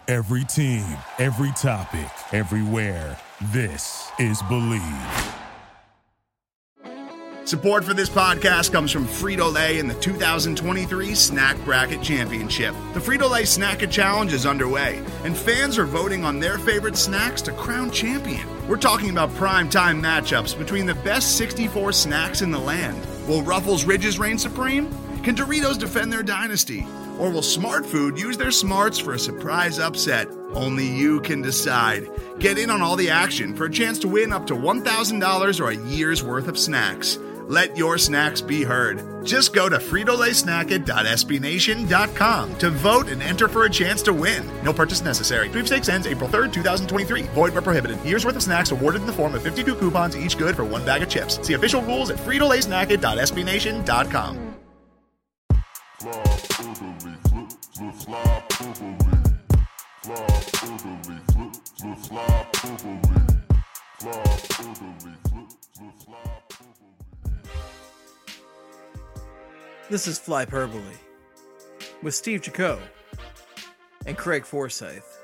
Every team, every topic, everywhere. This is Believe. Support for this podcast comes from Frito-Lay and the 2023 Snack Bracket Championship. The Frito-Lay Snack-It Challenge is underway, and fans are voting on their favorite snacks to crown champion. We're talking about prime-time matchups between the best 64 snacks in the land. Will Ruffles Ridges reign supreme? Can Doritos defend their dynasty? Or will Smart Food use their smarts for a surprise upset? Only you can decide. Get in on all the action for a chance to win up to $1,000 or a year's worth of snacks. Let your snacks be heard. Just go to fritolaysnacket.sbnation.com to vote and enter for a chance to win. No purchase necessary. Sweepstakes ends April 3rd, 2023. Void where prohibited. Year's worth of snacks awarded in the form of 52 coupons, each good for one bag of chips. See official rules at fritolaysnacket.sbnation.com. This is Flyperbole with Steve Jaco and Craig Forsyth.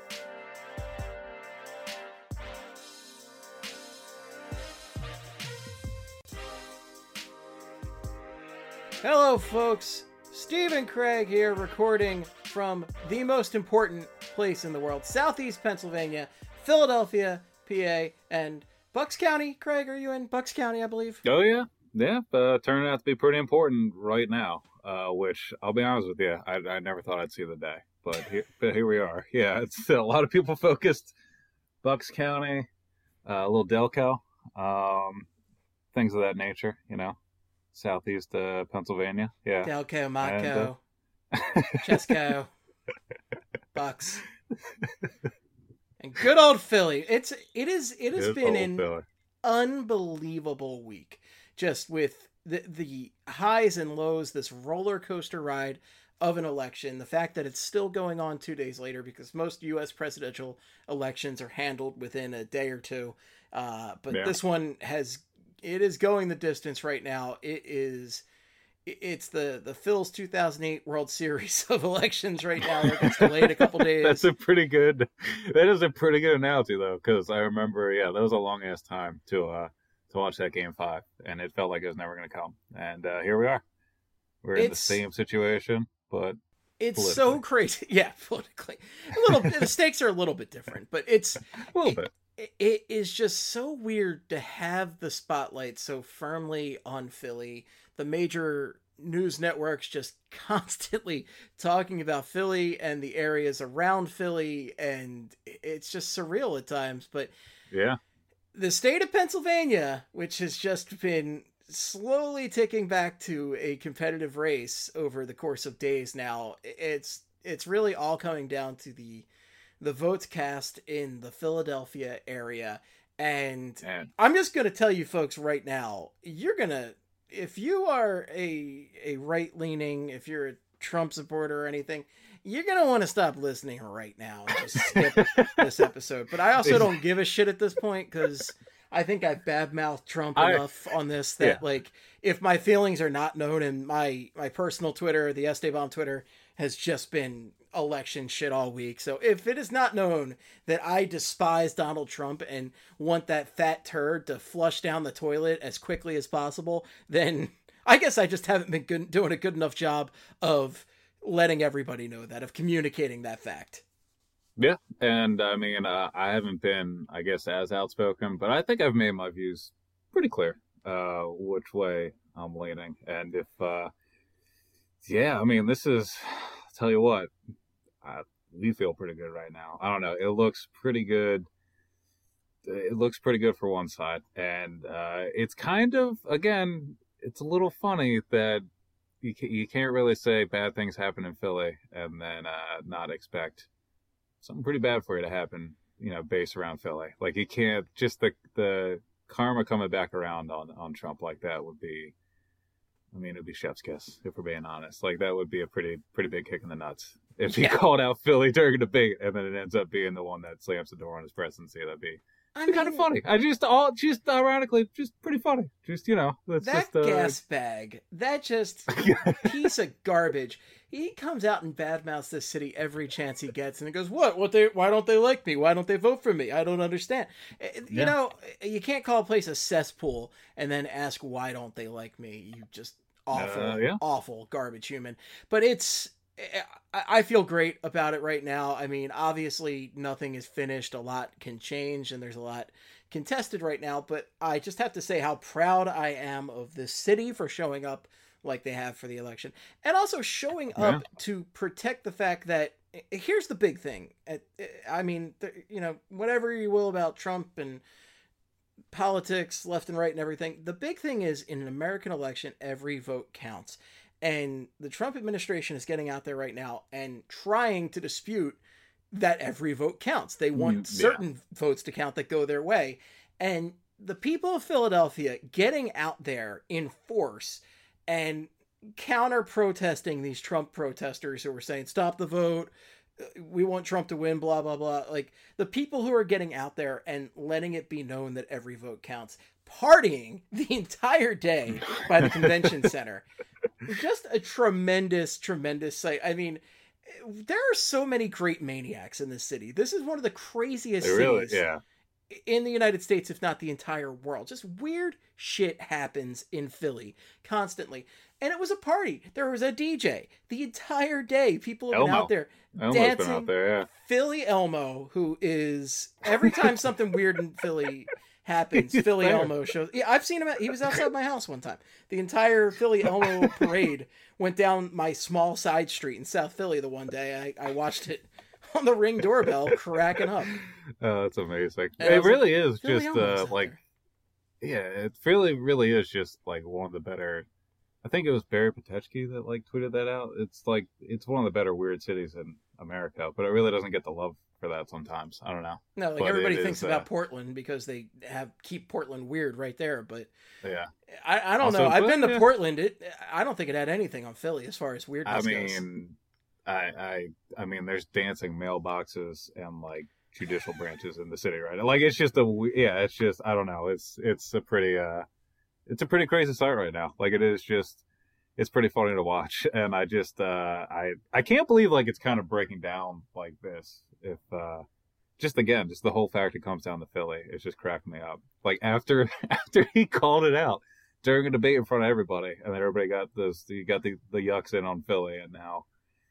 Hello, folks. Steve and Craig here, recording from the most important place in the world, Southeast Pennsylvania, Philadelphia, PA, and Bucks County. Craig, are you in Bucks County, I believe? Oh, yeah. Yeah, turning out to be pretty important right now, which, I'll be honest with you, I never thought I'd see the day. But here we are. Yeah, it's a lot of people focused. Bucks County, a little Delco, things of that nature, you know. Southeast Pennsylvania, yeah. Delco, Matco, Chesco, Bucks, and good old Philly. It has been an unbelievable week, just with the highs and lows. This roller coaster ride of an election. The fact that it's still going on 2 days later, because most U.S. presidential elections are handled within a day or two, This one it is going the distance right now. It's the Phil's 2008 World Series of elections right now. It gets delayed a couple days. That is a pretty good analogy, though, because I remember, that was a long ass time to watch that Game 5, and it felt like it was never going to come. And here we are. We're in the same situation, but it's so crazy. Yeah, politically, the stakes are a little bit different, but it's a little bit. It is just so weird to have the spotlight so firmly on Philly. The major news networks just constantly talking about Philly and the areas around Philly, and it's just surreal at times. But yeah, the state of Pennsylvania, which has just been slowly ticking back to a competitive race over the course of days now, it's really all coming down to the votes cast in the Philadelphia area. And I'm just going to tell you folks right now, if you are a right-leaning, if you're a Trump supporter or anything, you're going to want to stop listening right now and just skip this episode. But I also don't give a shit at this point, because I think I've bad-mouthed Trump enough on this that, if my feelings are not known, and my personal Twitter, the Esteban Twitter, has just been election shit all week. So if it is not known that I despise Donald Trump and want that fat turd to flush down the toilet as quickly as possible, then I guess I just haven't been doing a good enough job of letting everybody know that, of communicating that fact. Yeah, and I mean, I haven't been, I guess, as outspoken, but I think I've made my views pretty clear, which way I'm leaning. And if, I mean, this is, I'll tell you what, we feel pretty good right now. I don't know. It looks pretty good. It looks pretty good for one side. And it's kind of, again, it's a little funny that you can't really say bad things happen in Philly and then not expect something pretty bad for you to happen, based around Philly. Like, you can't, just the karma coming back around on Trump like that would be, I mean, it'd be chef's kiss, if we're being honest. Like, that would be a pretty big kick in the nuts. If he called out Philly during a debate and then it ends up being the one that slams the door on his presidency, that'd be I kind of funny. Just ironically, just pretty funny. Just, that's that just gas bag, that just piece of garbage. He comes out and badmouths this city every chance he gets, and he goes, why don't they like me? Why don't they vote for me? I don't understand. You know, you can't call a place a cesspool and then ask, why don't they like me? You just awful garbage human. But I feel great about it right now. I mean, obviously nothing is finished. A lot can change and there's a lot contested right now, but I just have to say how proud I am of this city for showing up like they have for the election, and also showing up to protect the fact that here's the big thing. I mean, whatever you will about Trump and politics, left and right and everything, the big thing is in an American election, every vote counts. And the Trump administration is getting out there right now and trying to dispute that every vote counts. They want certain votes to count that go their way. And the people of Philadelphia getting out there in force and counter protesting these Trump protesters who were saying, stop the vote, we want Trump to win, blah, blah, blah. Like, the people who are getting out there and letting it be known that every vote counts, partying the entire day by the convention center. Just a tremendous, tremendous sight. I mean, there are so many great maniacs in this city. This is one of the craziest cities in the United States, if not the entire world. Just weird shit happens in Philly constantly. And it was a party. There was a DJ the entire day. People have been out there dancing. Been out there, Philly Elmo, who is, every time something weird in Philly happens, Philly Elmo shows. Yeah, I've seen him. He was outside my house one time. The entire Philly Elmo parade went down my small side street in South Philly the one day. I watched it on the Ring doorbell, cracking up. Oh, that's amazing. It really is just it really is just like one of the better. I think it was Barry Patechki that tweeted that out. It's one of the better weird cities in America, but it really doesn't get the love for that sometimes. I don't know. No, everybody thinks about Portland because they keep Portland weird right there, but yeah, I don't know. I've been to Portland. I don't think it had anything on Philly as far as weirdness goes. I mean, there's dancing mailboxes and judicial branches in the city, right? It's just it's just, I don't know. It's a pretty crazy sight right now. It's pretty funny to watch. And I just, I can't believe it's kind of breaking down like this. If, just the whole fact it comes down to Philly, it's just cracking me up. After he called it out during a debate in front of everybody, and then everybody got the yucks in on Philly, and now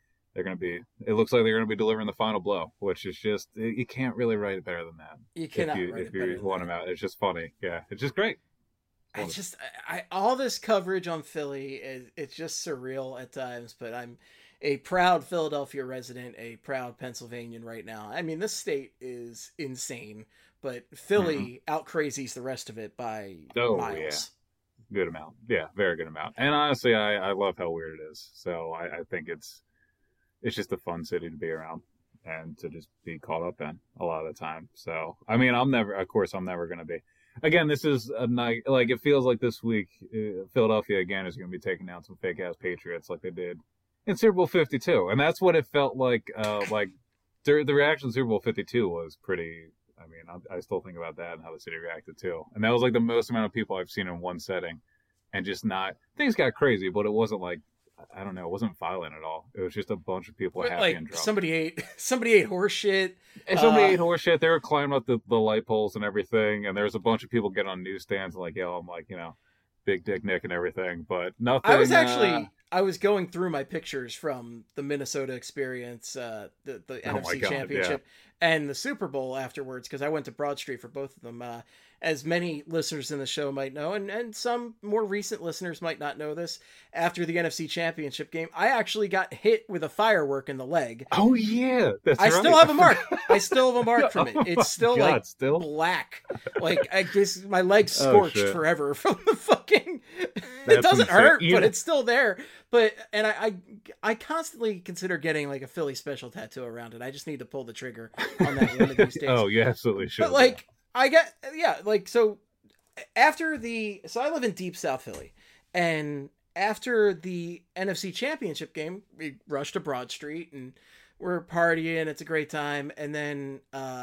it looks like they're going to be delivering the final blow, which is just, you can't really write it better than that. You cannot write it better if you want them out. It's just funny. Yeah. It's just great. It's just, all this coverage on Philly, it's just surreal at times, but I'm a proud Philadelphia resident, a proud Pennsylvanian right now. I mean, this state is insane, but Philly out-crazies the rest of it by miles. Yeah. Good amount. Yeah, very good amount. And honestly, I love how weird it is. So I think it's just a fun city to be around and to just be caught up in a lot of the time. So, I mean, I'm never going to be. Again, this is a night, it feels like this week, Philadelphia again is going to be taking down some fake ass Patriots like they did in Super Bowl 52. And that's what it felt like. The reaction to Super Bowl 52 was pretty, I mean, I still think about that and how the city reacted too. And that was the most amount of people I've seen in one setting, and just things got crazy, but it wasn't I don't know, it wasn't violent at all. It was just a bunch of people happy and drunk. Somebody ate horse shit. And somebody ate horse shit. They were climbing up the light poles and everything, and there was a bunch of people getting on newsstands and yelling Big Dick Nick and everything, but nothing. I was going through my pictures from the Minnesota experience, the NFC Championship, and the Super Bowl afterwards, because I went to Broad Street for both of them. As many listeners in the show might know, and some more recent listeners might not know this, after the NFC Championship game, I actually got hit with a firework in the leg. Oh, yeah. That's right. Still have a mark. I still have a mark from it. It's still black. I guess my leg's scorched forever from the fucking... It doesn't hurt, but it's still there. And I constantly consider getting a Philly special tattoo around it. I just need to pull the trigger on that one of these days. Oh, you absolutely should. But so I live in deep South Philly, and after the NFC Championship game, we rushed to Broad Street, and we're partying, it's a great time, and then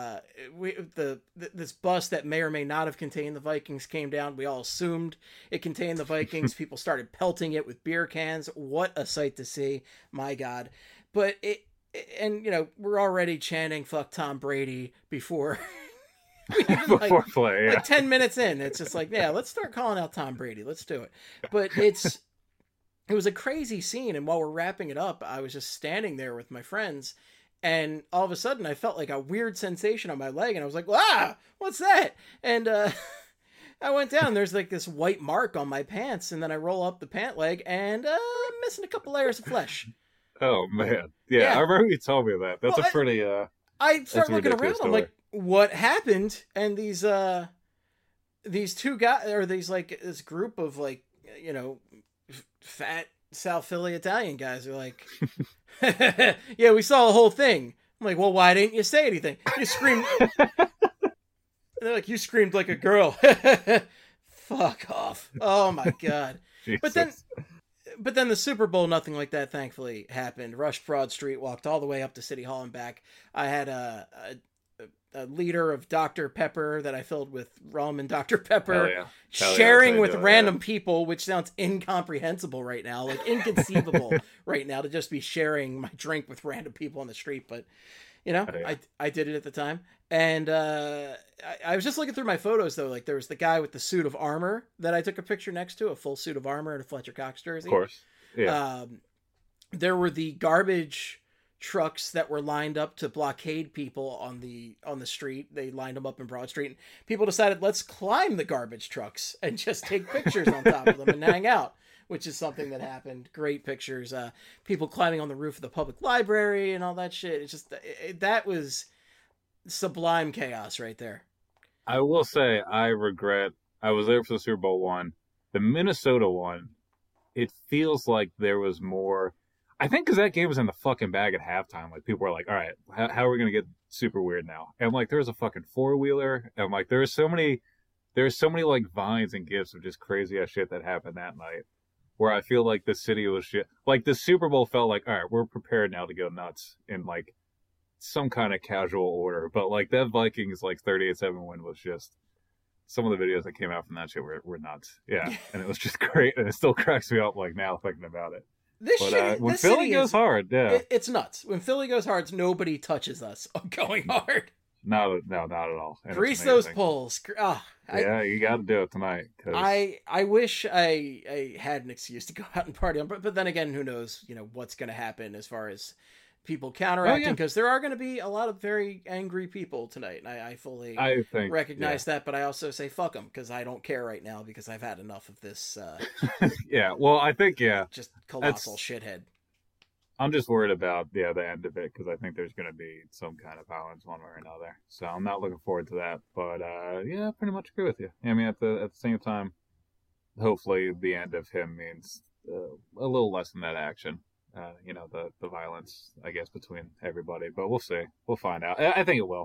this bus that may or may not have contained the Vikings came down. We all assumed it contained the Vikings. People started pelting it with beer cans. What a sight to see. My God. But and we're already chanting "fuck Tom Brady" before before play. Yeah. Like 10 minutes in, it's just like, yeah, let's start calling out Tom Brady. Let's do it. But it was a crazy scene, and while we're wrapping it up, I was just standing there with my friends, and all of a sudden I felt like a weird sensation on my leg, and I was like, "Ah, what's that?" And I went down, there's like this white mark on my pants, and then I roll up the pant leg, and I'm missing a couple layers of flesh. Oh man, yeah. I remember you told me that. That's a pretty. I start looking around. Story. I'm like, "What happened?" And these two guys, or this group of fat South Philly Italian guys are like, "Yeah, we saw the whole thing." I'm like, "Well, why didn't you say anything? You screamed." They're like, "You screamed like a girl." Fuck off! Oh my God! But then the Super Bowl, nothing like that, thankfully, happened. Rushed Broad Street, walked all the way up to City Hall and back. I had a liter of Dr. Pepper that I filled with rum and Dr. Pepper, sharing with random people, which sounds incomprehensible right now, like inconceivable right now to just be sharing my drink with random people on the street. But, I did it at the time. And I was just looking through my photos, though. Like, there was the guy with the suit of armor that I took a picture next to, a full suit of armor and a Fletcher Cox jersey. Of course. Yeah. There were the garbage trucks that were lined up to blockade people on the street. They lined them up in Broad Street. And people decided, let's climb the garbage trucks and just take pictures on top of them and hang out, which is something that happened. Great pictures. People climbing on the roof of the public library and all that shit. It's just, that was sublime chaos right there. I will say, I regret, I was there for the Super Bowl one. The Minnesota one, it feels like there was more, I think because that game was in the fucking bag at halftime. Like, people were like, all right, how are we going to get super weird now? And like, there was a fucking four-wheeler, and like, there's so many like vines and gifs of just crazy ass shit that happened that night, where I feel like the city was shit. Like, the Super Bowl felt like, all right, we're prepared now to go nuts in like some kind of casual order. But like, that Vikings like 38-7 win was just, some of the videos that came out from that shit were nuts. Yeah. And it was just great, and it still cracks me up like now thinking about it. When Philly goes hard, yeah, it's nuts. When Philly goes hard, nobody touches us going hard. No, not at all. And grease those poles. Yeah, you got to do it tonight. I wish I had an excuse to go out and party, but then again, who knows? What's going to happen as far as people counteracting, because there are going to be a lot of very angry people tonight, and I fully recognize that. But I also say fuck them, because I don't care right now, because I've had enough of this. Yeah, well, I think just colossal shithead. I'm just worried about the end of it, because I think there's going to be some kind of violence one way or another. So I'm not looking forward to that. But yeah, I pretty much agree with you. I mean, at the same time, hopefully the end of him means a little less than that action. The violence, I guess, between everybody. But we'll see. We'll find out. I think it will.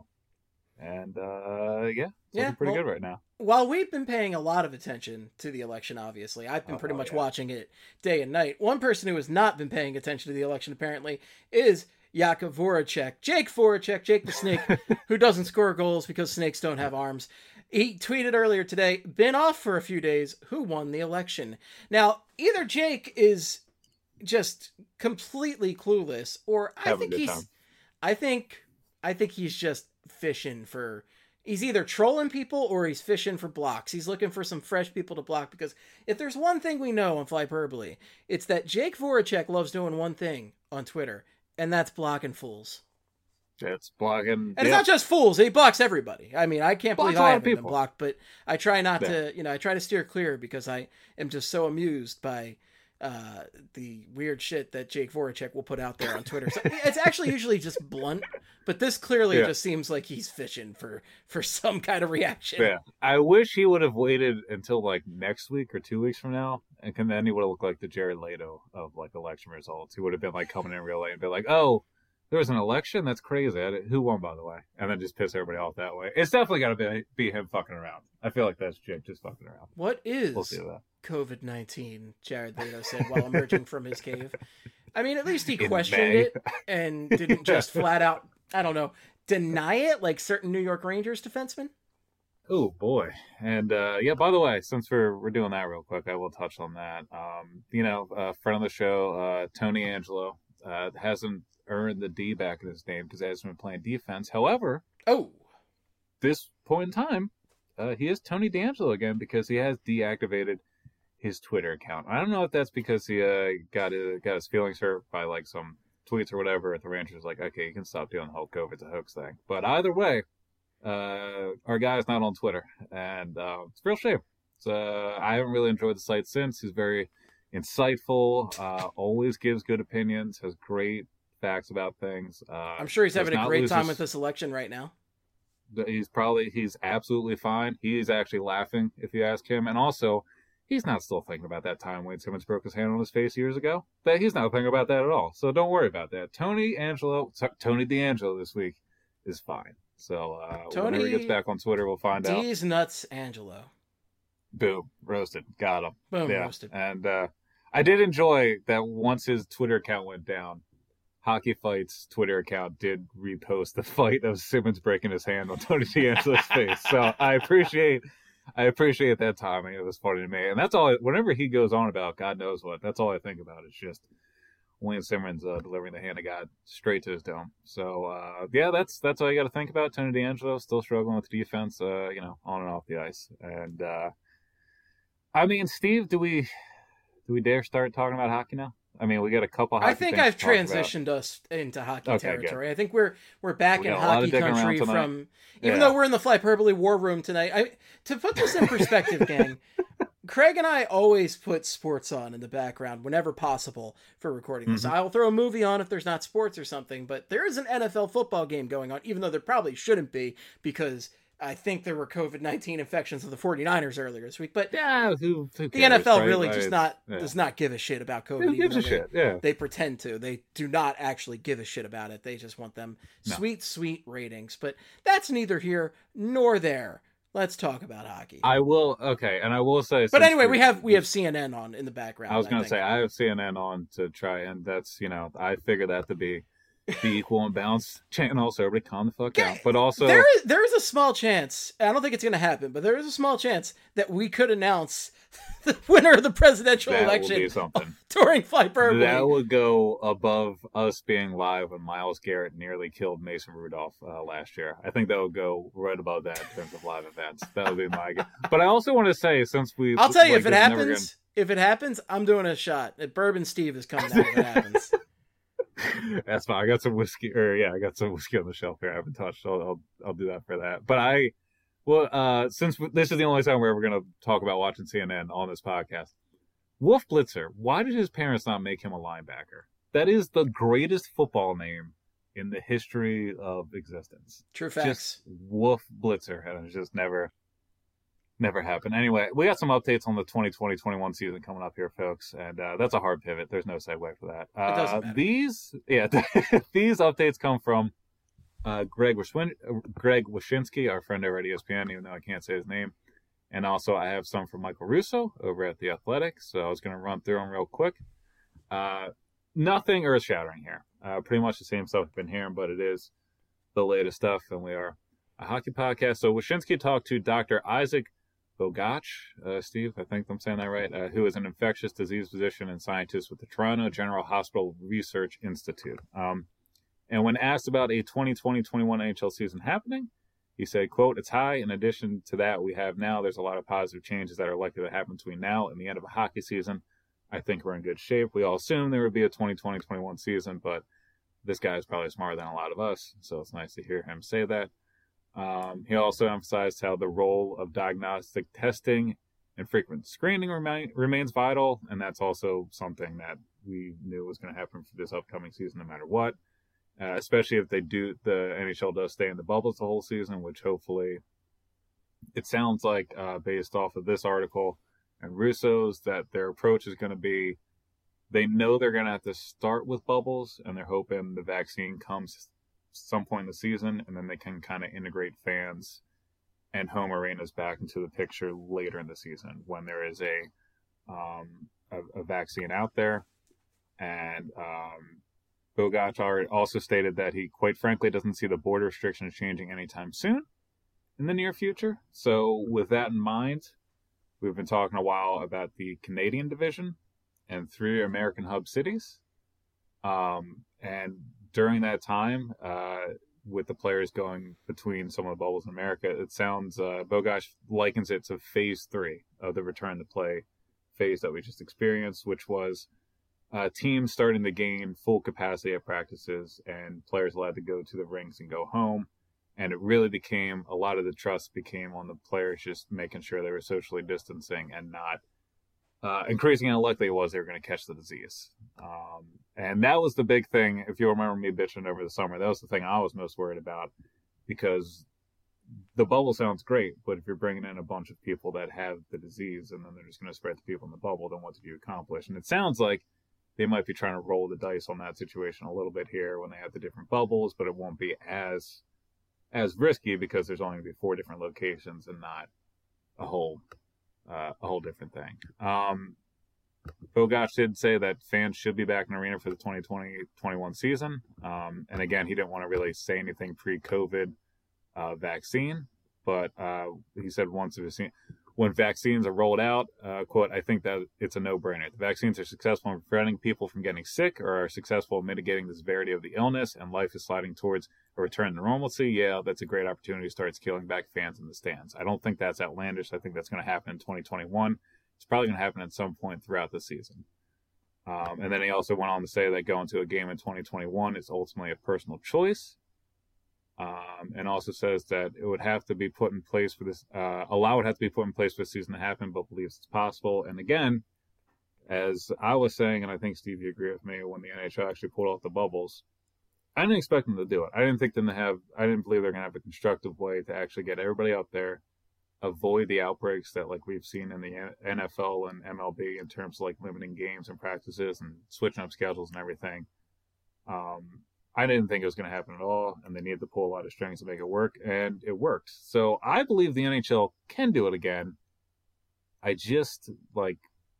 And it's looking pretty good right now. While we've been paying a lot of attention to the election, obviously, I've been pretty much watching it day and night. One person who has not been paying attention to the election, apparently, is Jakub Voracek. Jake Voracek, Jake the Snake, who doesn't score goals because snakes don't have arms. He tweeted earlier today, been off for a few days, who won the election? Now, either Jake is just completely clueless, or I think he's just fishing for, he's either trolling people or he's fishing for blocks. He's looking for some fresh people to block, because if there's one thing we know on Flyperbole, it's that Jake Voracek loves doing one thing on Twitter, and that's blocking fools. It's blocking, and it's not just fools. He blocks everybody. I mean, I can't believe I haven't been blocked, but I try not to, I try to steer clear, because I am just so amused by the weird shit that Jake Voracek will put out there on Twitter. So it's actually usually just blunt, but this clearly just seems like he's fishing for some kind of reaction. Yeah, I wish he would have waited until like next week or 2 weeks from now, and then he would have looked like the Jared Leto of like election results. He would have been like coming in real late and be like, "Oh, there was an election? That's crazy. Who won, by the way?" And then just piss everybody off that way. It's definitely got to be him fucking around. I feel like that's Jake just fucking around. What is we'll see that. COVID-19, Jared Leto said while emerging from his cave. I mean, at least he In questioned May. it and didn't just flat out, I don't know, deny it like certain New York Rangers defensemen. Oh boy. And yeah, by the way, since we're doing that real quick, I will touch on that. Friend of the show, Tony Angelo, hasn't earned the D back in his name because he hasn't been playing defense. However, this point in time, he is Tony D'Angelo again because he has deactivated his Twitter account. I don't know if that's because he got his feelings hurt by like some tweets or whatever. The Rangers like, okay, you can stop doing the whole COVID's a hoax thing. But either way, our guy's not on Twitter, and it's a real shame. I haven't really enjoyed the site since. He's very insightful, always gives good opinions, has great facts about things. I'm sure he's having a great time with this election right now. He's absolutely fine. He's actually laughing if you ask him, and also he's not still thinking about that time Wayne Simmons broke his hand on his face years ago. That he's not thinking about that at all. So don't worry about that. Tony D'Angelo this week is fine. So whenever he gets back on Twitter, we'll find out. D's nuts, Angelo. Boom, roasted, got him. Boom, roasted. And I did enjoy that once his Twitter account went down, Hockey Fight's Twitter account did repost the fight of Simmons breaking his hand on Tony D'Angelo's face. So I appreciate that timing. It was funny to me, and that's all. Whenever he goes on about God knows what, that's all I think about. It's just Wayne Simmons delivering the hand of God straight to his dome. So yeah, that's all you got to think about. Tony D'Angelo still struggling with defense, on and off the ice. And I mean, Steve, do we dare start talking about hockey now? I mean, we got a couple. Hockey I think I've transitioned us into hockey territory. Good. I think we're back in hockey country from. Even though we're in the Flyperbole war room tonight, to put this in perspective, gang. Craig and I always put sports on in the background whenever possible for recording this. I'll throw a movie on if there's not sports or something, but there is an NFL football game going on, even though there probably shouldn't be, because I think there were COVID-19 infections of the 49ers earlier this week. But yeah, who cares, the NFL right? really does not give a shit about COVID. Who gives a shit? Yeah. They pretend to. They do not actually give a shit about it. They just want them sweet ratings. But that's neither here nor there. Let's talk about hockey. I will say. But anyway, we have CNN on in the background. I was going to say I have CNN on to try, and that's I figure that to be the equal and balanced channel, so everybody calm the fuck out. But also, there is a small chance. I don't think it's going to happen, but there is a small chance that we could announce the winner of the presidential election during Flyperbole. That would go above us being live when Myles Garrett nearly killed Mason Rudolph last year. I think that would go right above that in terms of live events. That would be my guess. But I also want to say, I'll tell you, if it happens, I'm doing a shot. Bourbon Steve is coming out if it happens. That's fine. I got some whiskey, I got some whiskey on the shelf here I haven't touched. I'll do that for that. But since this is the only time we're ever going to talk about watching CNN on this podcast, Wolf Blitzer, why did his parents not make him a linebacker? That is the greatest football name in the history of existence. True facts. Just Wolf Blitzer, and it's just never happened. Anyway, we got some updates on the 2020-21 season coming up here, folks, and that's a hard pivot. There's no segue for that. It doesn't matter. These updates come from Greg Wyshynski, our friend over at ESPN, even though I can't say his name. And also I have some from Michael Russo over at The Athletic, so I was going to run through them real quick. Nothing earth-shattering here. Pretty much the same stuff we've been hearing, but it is the latest stuff, and we are a hockey podcast. So Wyshynski talked to Dr. Isaac Bogach, Steve, I think I'm saying that right, who is an infectious disease physician and scientist with the Toronto General Hospital Research Institute. And when asked about a 2020-21 NHL season happening, he said, quote, "It's high. In addition to that we have now, there's a lot of positive changes that are likely to happen between now and the end of a hockey season. I think we're in good shape. We all assumed there would be a 2020-21 season, but this guy is probably smarter than a lot of us, so it's nice to hear him say that." He also emphasized how the role of diagnostic testing and frequent screening remains vital, and that's also something that we knew was going to happen for this upcoming season no matter what, especially if the NHL does stay in the bubbles the whole season, which hopefully it sounds like based off of this article and Russo's that their approach is going to be they know they're going to have to start with bubbles, and they're hoping the vaccine comes some point in the season, and then they can kind of integrate fans and home arenas back into the picture later in the season when there is a vaccine out there. And Bogart also stated that he, quite frankly, doesn't see the border restrictions changing anytime soon in the near future. So with that in mind, we've been talking a while about the Canadian division and 3 American hub cities. And during that time, with the players going between some of the bubbles in America, it sounds, Bogosh likens it to phase 3 of the return to play phase that we just experienced, which was teams starting to gain full capacity at practices and players allowed to go to the rings and go home. And it really became, a lot of the trust became on the players just making sure they were socially distancing and not increasing how likely it was they were going to catch the disease. And that was the big thing. If you remember me bitching over the summer, that was the thing I was most worried about, because the bubble sounds great, but if you're bringing in a bunch of people that have the disease and then they're just going to spread to people in the bubble, then what did you accomplish? And it sounds like they might be trying to roll the dice on that situation a little bit here when they have the different bubbles, but it won't be as risky because there's only going to be 4 different locations and not a whole different thing. Bogosh did say that fans should be back in the arena for the 2020-21 season. And again, he didn't want to really say anything pre-COVID vaccine, but he said when vaccines are rolled out, quote, I think that it's a no-brainer. The vaccines are successful in preventing people from getting sick or are successful in mitigating the severity of the illness, and life is sliding towards a return to normalcy. Yeah, that's a great opportunity to start scaling back fans in the stands. I don't think that's outlandish. I think that's going to happen in 2021. It's probably going to happen at some point throughout the season. And then he also went on to say that going to a game in 2021 is ultimately a personal choice. And also says that it would have to be put in place for this, would have to be put in place for the season to happen, but believes it's possible. And again, as I was saying, and I think Steve, you agree with me, when the NHL actually pulled off the bubbles, I didn't expect them to do it. I didn't believe they're going to have a constructive way to actually get everybody out there, avoid the outbreaks that like we've seen in the NFL and MLB in terms of like limiting games and practices and switching up schedules and everything. I didn't think it was going to happen at all, and they needed to pull a lot of strings to make it work, and it worked. So I believe the NHL can do it again. I just, I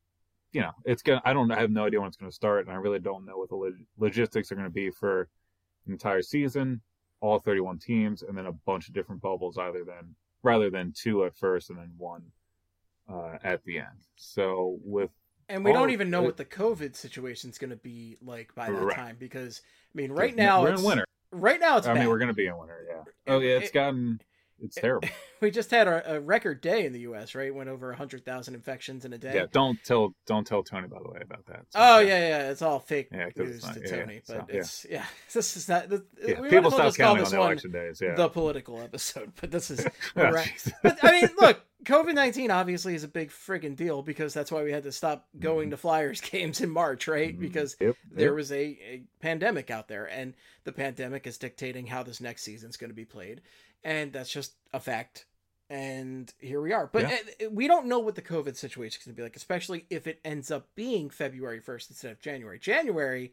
have no idea when it's going to start, and I really don't know what the logistics are going to be for an entire season, all 31 teams, and then a bunch of different bubbles rather than 2 at first and then 1 at the end. So And we don't even know what the COVID situation is going to be like by that time, because I mean, right now we're in winter. Right now it's bad. I mean, we're going to be in winter, yeah. Oh yeah, it's terrible. We just had a record day in the U.S., right? Went over 100,000 infections in a day. Yeah, don't tell Tony, by the way, about that. So, yeah, it's all fake news to Tony, but this is not. People stop counting on the election days. Yeah, the political episode, but this is. But I mean, look, COVID-19 obviously is a big friggin' deal, because that's why we had to stop going to Flyers games in March, right? Because there was a pandemic out there, and the pandemic is dictating how this next season's going to be played. And that's just a fact. And here we are. But we don't know what the COVID situation is going to be like, especially if it ends up being February 1st instead of January. January,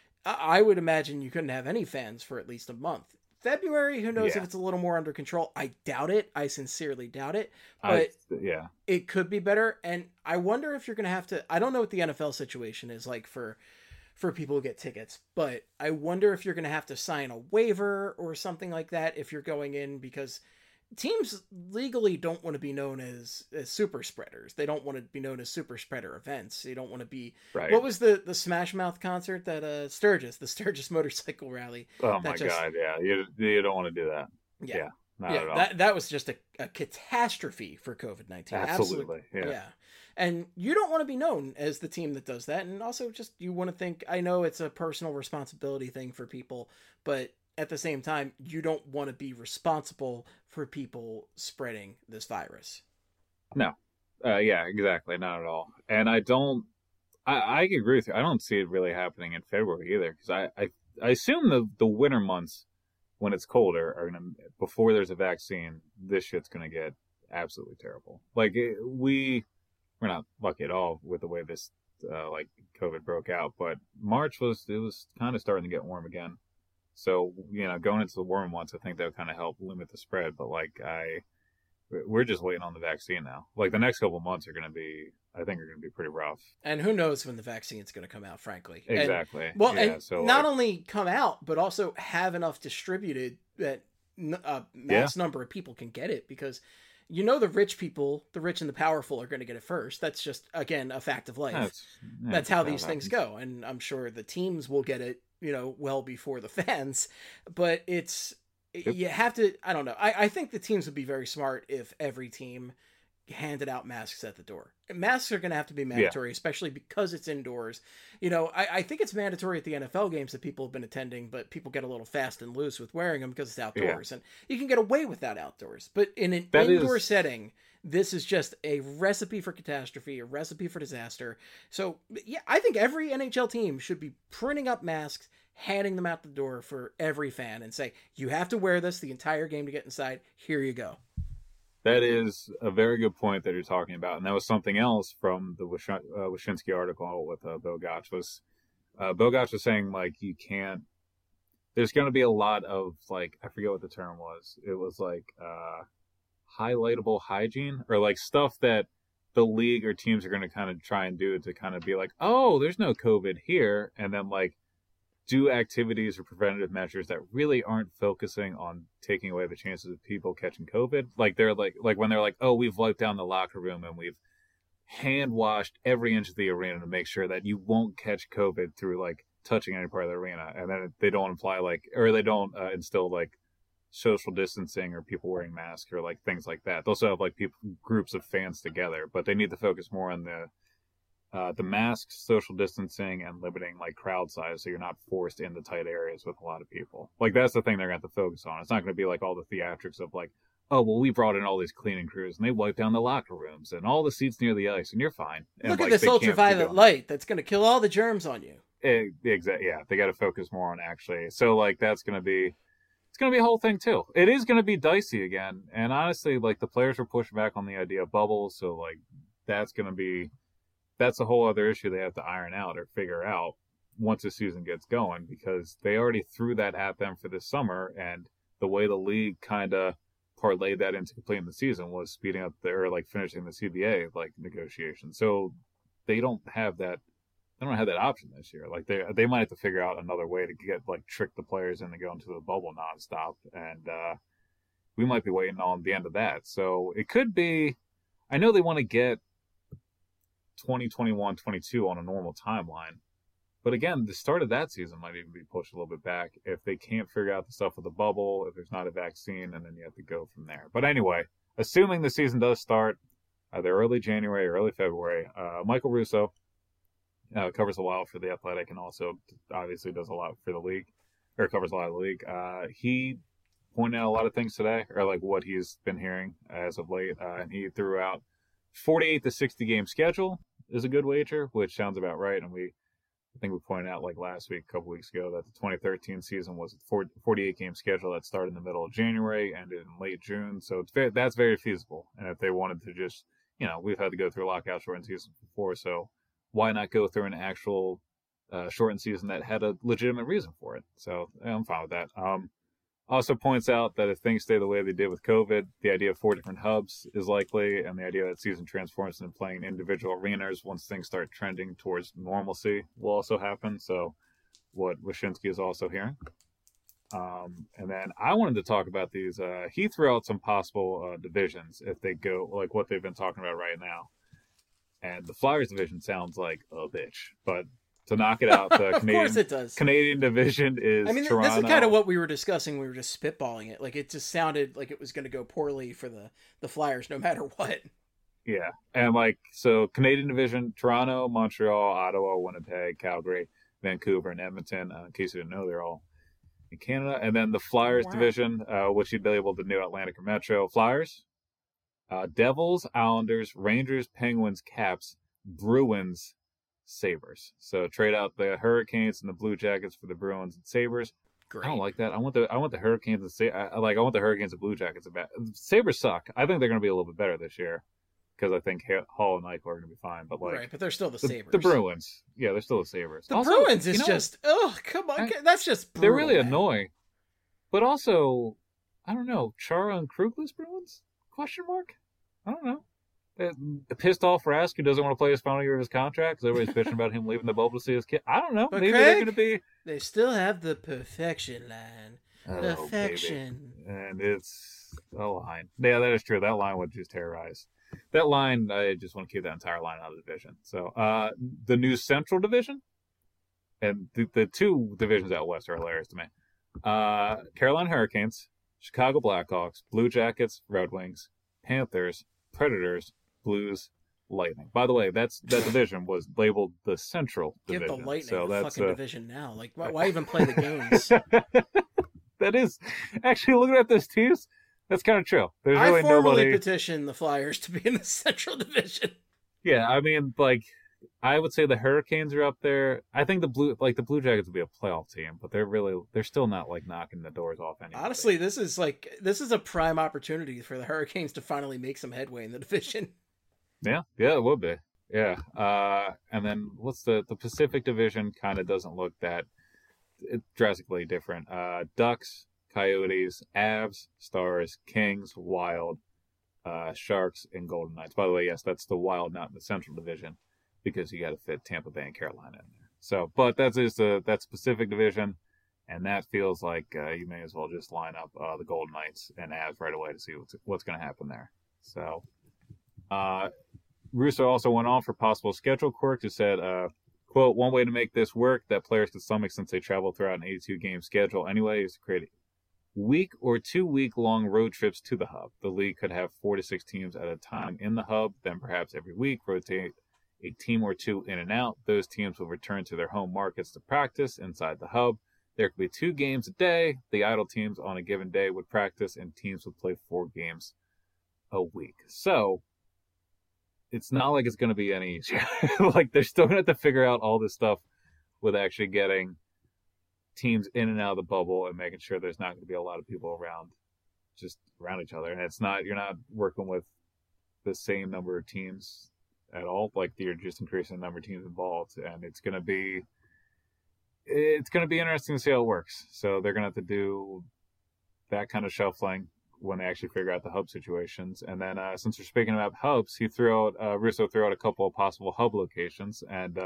I would imagine you couldn't have any fans for at least a month. February, who knows if it's a little more under control. I doubt it. I sincerely doubt it. But it could be better. And I wonder if you're going to have to... I don't know what the NFL situation is like for people who get tickets, but I wonder if you're going to have to sign a waiver or something like that if you're going in, because teams legally don't want to be known as super spreaders. They don't want to be known as super spreader events. They don't want to be... Right. What was the Smash Mouth concert that the Sturgis motorcycle rally? Oh my God, yeah. You don't want to do that. Yeah. Not at all. That was just a catastrophe for COVID-19. Absolutely. Yeah. And you don't want to be known as the team that does that. And also just, you want to think, I know it's a personal responsibility thing for people, but at the same time, you don't want to be responsible for people spreading this virus. No. Yeah, exactly. Not at all. And I agree with you. I don't see it really happening in February either, because I assume the winter months, when it's colder, are gonna, before there's a vaccine, this shit's gonna get absolutely terrible. Like, we're not lucky at all with the way this COVID broke out, but March was kind of starting to get warm again. So, going into the warm months, I think that would kind of help limit the spread. But we're just waiting on the vaccine now. Like, the next couple of months are going to be I think are going to be pretty rough. And who knows when the vaccine's going to come out, frankly. Exactly. And not only come out, but also have enough distributed that mass number of people can get it, because the rich people, the rich and the powerful, are going to get it first. That's just, again, a fact of life. That's how these things go. And I'm sure the teams will get it, well before the fans. But you have to, I don't know. I think the teams would be very smart if every team handed out masks at the door. Masks are going to have to be mandatory, especially because it's indoors. I think it's mandatory at the NFL games that people have been attending, but people get a little fast and loose with wearing them because it's outdoors, and you can get away with that outdoors. But in an indoor setting, this is just a recipe for catastrophe, a recipe for disaster. So yeah, I think every NHL team should be printing up masks, handing them out the door for every fan, and say, you have to wear this the entire game to get inside. Here you go. That is a very good point that you're talking about, and that was something else from the Wyshynski article with Bill Gotch. Bill Gotch was saying, like, you can't. There's going to be a lot of, like, I forget what the term was. It was like highlightable hygiene, or like stuff that the league or teams are going to kind of try and do to kind of be like, oh, there's no COVID here, and then like do activities or preventative measures that really aren't focusing on taking away the chances of people catching COVID. Like they're like when they're like, oh, we've wiped down the locker room and we've hand washed every inch of the arena to make sure that you won't catch COVID through like touching any part of the arena. And then they don't imply they don't instill like social distancing or people wearing masks or like things like that. They'll also have like groups of fans together, but they need to focus more on the masks, social distancing, and limiting like crowd size so you're not forced into tight areas with a lot of people. Like that's the thing they're going to have to focus on. It's not going to be like all the theatrics of like, oh, well, we brought in all these cleaning crews and they wiped down the locker rooms and all the seats near the ice and you're fine. And look at this ultraviolet light that's going to kill all the germs on you. Exactly. Yeah, they got to focus more on actually. So like it's going to be a whole thing too. It is going to be dicey again. And honestly, like the players were pushing back on the idea of bubbles. So like that's a whole other issue they have to iron out or figure out once the season gets going, because they already threw that at them for this summer, and the way the league kind of parlayed that into completing the season was speeding up finishing the CBA negotiations. So they don't have that option this year. Like they might have to figure out another way to trick the players into going to the bubble nonstop, and we might be waiting on the end of that. So it could be. I know they want to get 2021-22 on a normal timeline, but again, the start of that season might even be pushed a little bit back if they can't figure out the stuff with the bubble, if there's not a vaccine, and then you have to go from there. But anyway, assuming the season does start either early January or early February, Michael Russo covers a lot for The Athletic and also obviously does a lot for the league, or covers a lot of the league. He pointed out a lot of things today, or like what he's been hearing as of late, and he threw out 48 to 60 game schedule is a good wager, which sounds about right. And I think we pointed out like last week, a couple weeks ago, that the 2013 season was a 48 game schedule that started in the middle of January, ended in late June. So that's very feasible. And if they wanted to just, we've had to go through a lockout shortened season before, so why not go through an actual shortened season that had a legitimate reason for it? So I'm fine with that. Also points out that if things stay the way they did with COVID, the idea of 4 different hubs is likely, and the idea that season transforms into playing individual arenas once things start trending towards normalcy will also happen. So what Wyshynski is also hearing. And then I wanted to talk about these. He threw out some possible divisions if they go, like what they've been talking about right now. And the Flyers division sounds like a bitch, but to knock it out, the Canadian, of course it does. Canadian division is Toronto. This is kind of what we were discussing. We were just spitballing it. Like, it just sounded like it was going to go poorly for the Flyers no matter what. Yeah. And, so Canadian division, Toronto, Montreal, Ottawa, Winnipeg, Calgary, Vancouver, and Edmonton. In case you didn't know, they're all in Canada. And then the Flyers division, which you'd be able to know Atlantic or Metro. Flyers, Devils, Islanders, Rangers, Penguins, Caps, Bruins, Sabres. So trade out the Hurricanes and the Blue Jackets for the Bruins and Sabres. Great. I don't like that. I want the Hurricanes and I want the Hurricanes and Blue Jackets. Sabres suck. I think they're going to be a little bit better this year because I think Hall and Eichel are going to be fine. But right, but they're still the Sabres. The Bruins, yeah, they're still the Sabres. The also, Bruins is just come on, that's just brutal, they're really annoying. But also, I don't know, Chara and Krugless Bruins? Question mark? I don't know. Pissed off Rask, who doesn't want to play his final year of his contract because everybody's bitching about him leaving the bubble to see his kid. I don't know. But Maybe Craig, they're going to be. They still have the perfection line. Perfection. Baby. And it's a line. Yeah, that is true. That line would just terrorize. That line, I just want to keep that entire line out of the division. So, the new Central Division, and the two divisions out west are hilarious to me. Carolina Hurricanes, Chicago Blackhawks, Blue Jackets, Red Wings, Panthers, Predators, Blues, Lightning. By the way, that division was labeled the Central Division. Give the Lightning so a fucking division now. Like, why even play the games? That is actually, looking at those teams, that's kind of true. There's really I formally nobody. petitioned the Flyers to be in the Central Division. Yeah, I mean, like, I would say the Hurricanes are up there. I think the Blue Jackets would be a playoff team, but they're still not like knocking the doors off anybody. Honestly, this is a prime opportunity for the Hurricanes to finally make some headway in the division. Yeah, it would be. Yeah, and then what's the Pacific Division? Kind of doesn't look that drastically different. Ducks, Coyotes, Avs, Stars, Kings, Wild, Sharks, and Golden Knights. By the way, yes, that's the Wild, not in the Central Division, because you got to fit Tampa Bay and Carolina in there. So, but that's Pacific Division, and that feels like you may as well just line up the Golden Knights and Avs right away to see what's going to happen there. So, Russo also went on for possible schedule quirks. He said, quote, "One way to make this work that players can stomach since they travel throughout an 82-game schedule anyway is to create week or 2 week long road trips to the hub. The league could have 4 to 6 teams at a time in the hub, then perhaps every week rotate a team or two in and out. Those teams will return to their home markets to practice inside the hub. There could be 2 games a day. The idle teams on a given day would practice, and teams would play 4 games a week." So it's not like it's going to be any easier. Like, they're still going to have to figure out all this stuff with actually getting teams in and out of the bubble and making sure there's not going to be a lot of people around each other. And you're not working with the same number of teams at all. Like, you're just increasing the number of teams involved, and it's going to be interesting to see how it works. So they're going to have to do that kind of shuffling when they actually figure out the hub situations. And then since we're speaking about hubs, Russo threw out a couple of possible hub locations. And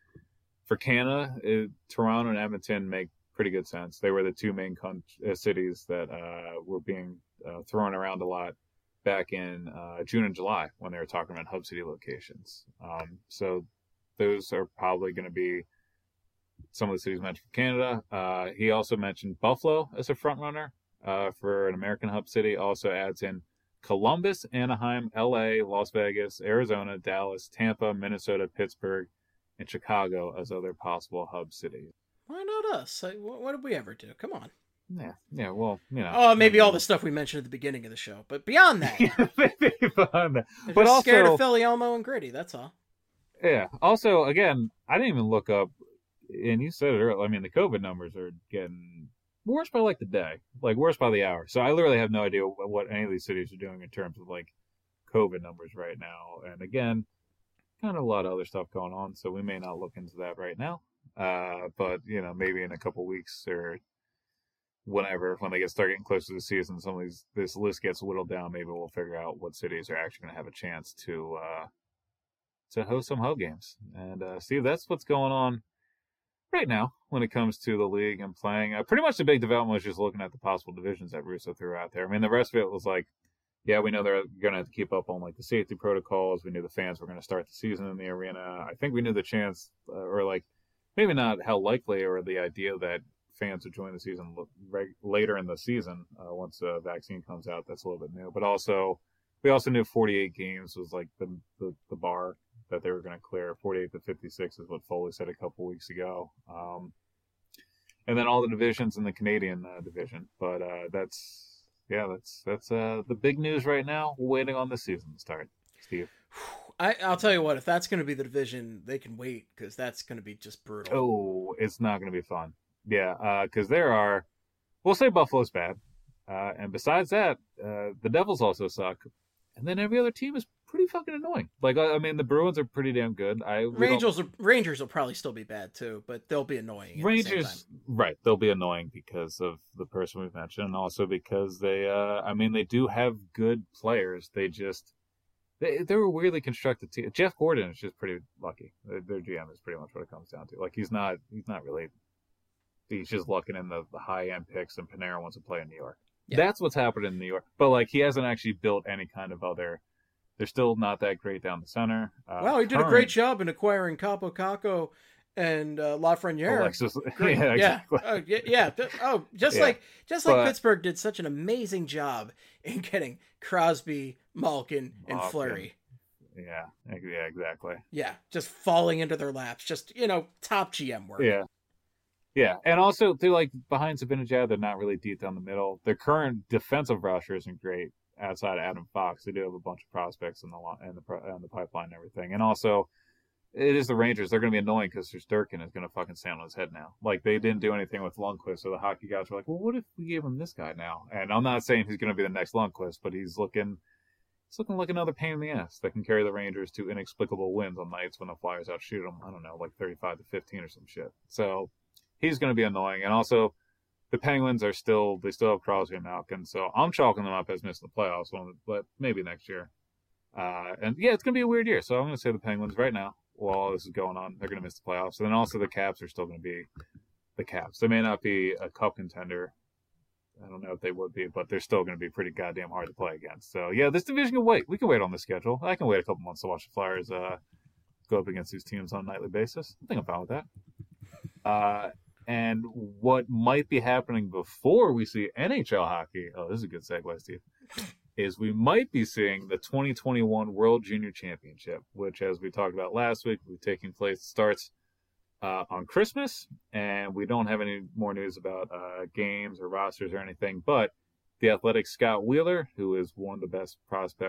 for Canada, Toronto and Edmonton make pretty good sense. They were the 2 main cities that were being thrown around a lot back in June and July when they were talking about hub city locations. So those are probably going to be some of the cities mentioned for Canada. He also mentioned Buffalo as a front runner for an American hub city. Also adds in Columbus, Anaheim, LA, Las Vegas, Arizona, Dallas, Tampa, Minnesota, Pittsburgh, and Chicago as other possible hub cities. Why not us? What did we ever do? Come on. Yeah, well, you know. Oh, maybe all the stuff we mentioned at the beginning of the show. But beyond that. Maybe beyond that. They're but just also, scared of Philly, Elmo, and Gritty, that's all. Yeah. Also, again, I didn't even look up, and you said it earlier, I mean, the COVID numbers are getting worse by like the day, like worse by the hour. So I literally have no idea what any of these cities are doing in terms of like COVID numbers right now. And again, kind of a lot of other stuff going on, so we may not look into that right now. But you know, maybe in a couple weeks or whenever, when they start getting closer to the season, some of this list gets whittled down. Maybe we'll figure out what cities are actually going to have a chance to host some hub games. And Steve, that's what's going on right now when it comes to the league and playing. Pretty much the big development was just looking at the possible divisions that Russo threw out there. I mean, the rest of it was like, yeah, we know they're going to have to keep up on like the safety protocols. We knew the fans were going to start the season in the arena. I think we knew the chance, or like maybe not how likely, or the idea that fans would join the season later in the season once the vaccine comes out. That's a little bit new. But also, we also knew 48 games was like the bar that they were going to clear. 48 to 56 is what Foley said a couple weeks ago. And then all the divisions in the Canadian division. But that's the big news right now. We're waiting on the season to start, Steve. I'll tell you what, if that's going to be the division, they can wait, because that's going to be just brutal. Oh, it's not going to be fun. Yeah, because we'll say Buffalo's bad. And besides that, the Devils also suck. And then every other team is pretty fucking annoying. Like, I mean, the Bruins are pretty damn good. Rangers will probably still be bad too, but they'll be annoying. Rangers, right? They'll be annoying because of the person we've mentioned, and also because they do have good players. They just They were a weirdly constructed team. Jeff Gordon is just pretty lucky. Their GM is pretty much what it comes down to. Like he's not really. He's just looking in the high end picks, and Panera wants to play in New York. Yeah. That's what's happening in New York. But like he hasn't actually built any kind of other. They're still not that great down the center. Wow, he did a great job in acquiring Capo Caco and Lafreniere. Alexis, yeah, exactly. Just like Pittsburgh did such an amazing job in getting Crosby, Malkin, and Fleury. Yeah, exactly. Yeah, just falling into their laps. Just top GM work. Yeah, and also they're like behind Zibanejad, they're not really deep down the middle. Their current defensive roster isn't great. Outside of Adam Fox, they do have a bunch of prospects in the pipeline and everything. And also, it is the Rangers. They're going to be annoying because Durkin is going to fucking stand on his head now. Like, they didn't do anything with Lundqvist, so the hockey guys were like, well, what if we gave him this guy now? And I'm not saying he's going to be the next Lundqvist, but he's looking like another pain in the ass that can carry the Rangers to inexplicable wins on nights when the Flyers outshoot them, I don't know, like 35-15 or some shit. So, he's going to be annoying. And also, the Penguins they still have Crosby and Malkin, so I'm chalking them up as missing the playoffs, but maybe next year. And yeah, it's going to be a weird year, so I'm going to say the Penguins right now, while all this is going on, they're going to miss the playoffs. And then also the Caps are still going to be the Caps. They may not be a cup contender. I don't know if they would be, but they're still going to be pretty goddamn hard to play against. So yeah, this division can wait. We can wait on the schedule. I can wait a couple months to watch the Flyers go up against these teams on a nightly basis. I think I'm fine with that. And what might be happening before we see NHL hockey, oh, this is a good segue, Steve, is we might be seeing the 2021 World Junior Championship, which, as we talked about last week, will be taking place, starts on Christmas, and we don't have any more news about games or rosters or anything, but the Athletic's Scott Wheeler, who is one of the best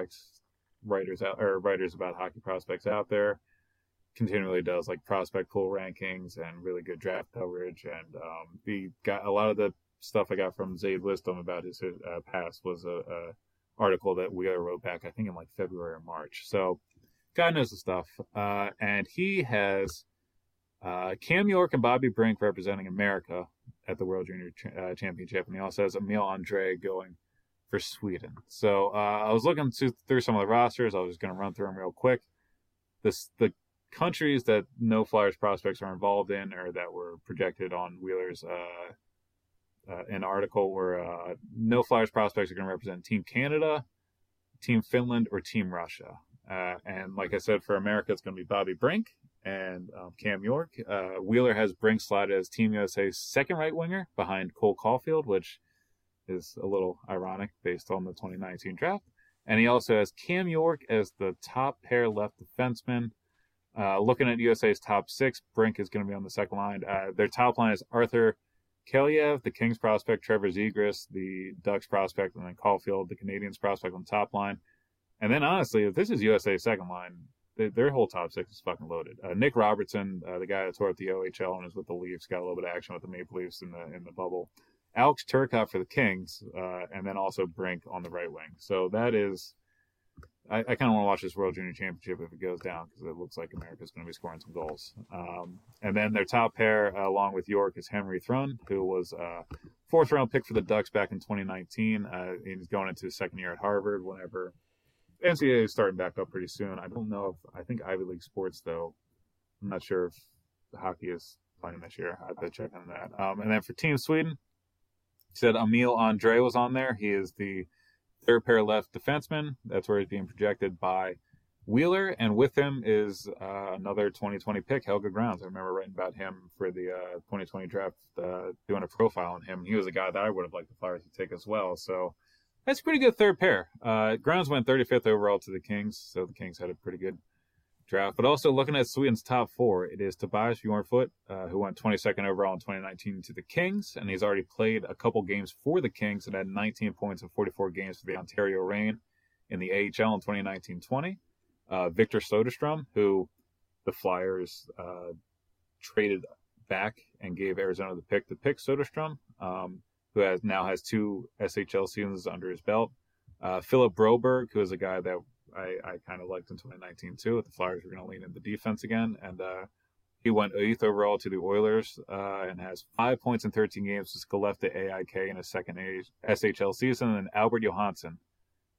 writers about hockey prospects out there, continually does like prospect pool rankings and really good draft coverage, and he got a lot of the stuff I got from Zaid Wisdom about his past was a article that Wheeler wrote back I think in like February or March. So guy knows the stuff, and he has Cam York and Bobby Brink representing America at the World Junior Championship, and he also has Emil Andre going for Sweden. So I was looking through some of the rosters. I was just going to run through them real quick. The countries that no Flyers prospects are involved in or that were projected on Wheeler's an article where no Flyers prospects are going to represent Team Canada, Team Finland, or Team Russia. And like I said, for America, it's going to be Bobby Brink and Cam York. Wheeler has Brink slotted as Team USA's second right winger behind Cole Caulfield, which is a little ironic based on the 2019 draft. And he also has Cam York as the top pair left defenseman. Looking at USA's top six, Brink is going to be on the second line. Their top line is Arthur Kaliev, the Kings prospect, Trevor Zegras, the Ducks prospect, and then Caulfield, the Canadians prospect on the top line. And then, honestly, if this is USA's second line, their whole top six is fucking loaded. Nick Robertson, the guy that tore up the OHL and is with the Leafs, got a little bit of action with the Maple Leafs in the bubble. Alex Turcotte for the Kings, and then also Brink on the right wing. So that is... I kind of want to watch this World Junior Championship if it goes down because it looks like America's going to be scoring some goals. And then their top pair, along with York, is Henry Thrun, who was a fourth-round pick for the Ducks back in 2019. He's going into his second year at Harvard whenever NCAA is starting back up pretty soon. I don't know I think Ivy League sports, though. I'm not sure if hockey is playing this year. I have to check on that. And then for Team Sweden, he said Emil Andre was on there. He is the third pair left defenseman. That's where he's being projected by Wheeler. And with him is another 2020 pick, Helge Grounds. I remember writing about him for the 2020 draft, doing a profile on him. He was a guy that I would have liked the Flyers to take as well. So that's a pretty good third pair. Grounds went 35th overall to the Kings, so the Kings had a pretty good draft. But also looking at Sweden's top four, it is Tobias Bjornfot, who went 22nd overall in 2019 to the Kings, and he's already played a couple games for the Kings and had 19 points in 44 games for the Ontario Reign in the AHL in 2019-20. Victor Soderstrom, who the Flyers traded back and gave Arizona the pick to pick Soderstrom, who now has 2 SHL seasons under his belt. Philip Broberg, who is a guy that I kind of liked in 2019 too. If the Flyers were going to lean into defense again, and he went 8th overall to the Oilers and has 5 points in 13 games with Skellefteå AIK in his second SHL season. And Albert Johansson,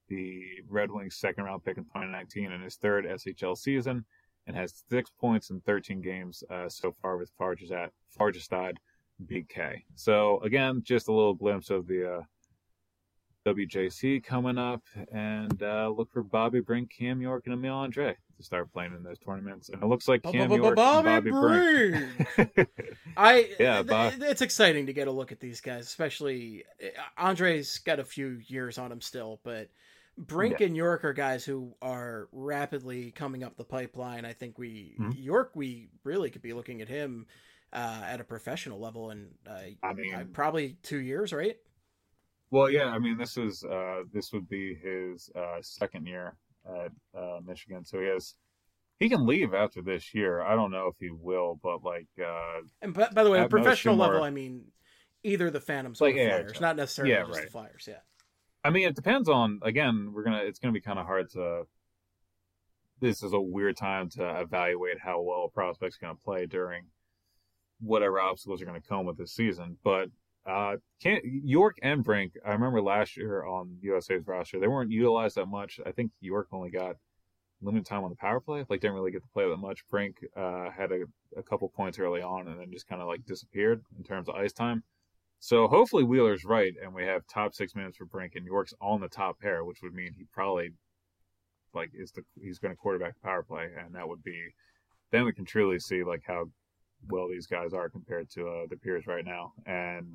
the Red Wings second round pick in 2019 in his third SHL season, and has 6 points in 13 games so far with Farjestad BK. So again, just a little glimpse of the WJC coming up, and look for Bobby Brink, Cam York, and Emil Andre to start playing in those tournaments. And it looks like Cam York and Bobby Brink. It's exciting to get a look at these guys, especially Andre's got a few years on him still, but Brink and York are guys who are rapidly coming up the pipeline. I think York, we really could be looking at him at a professional level in probably 2 years, right? Well, yeah, I mean, this would be his second year at Michigan, so he can leave after this year. I don't know if he will, but and by the way, at professional level, I mean either the Phantoms or the Flyers, not necessarily just the Flyers. Yeah, I mean, it depends on. Again, it's gonna be kind of hard to. This is a weird time to evaluate how well a prospect's gonna play during whatever obstacles are gonna come with this season, but. York and Brink, I remember last year on USA's roster, they weren't utilized that much. I think York only got limited time on the power play, didn't really get to play that much. Brink had a couple points early on and then just kind of disappeared in terms of ice time. So hopefully Wheeler's right and we have top 6 minutes for Brink and York's on the top pair, which would mean he probably he's going to quarterback the power play, and that would be then we can truly see how well these guys are compared to the peers right now. And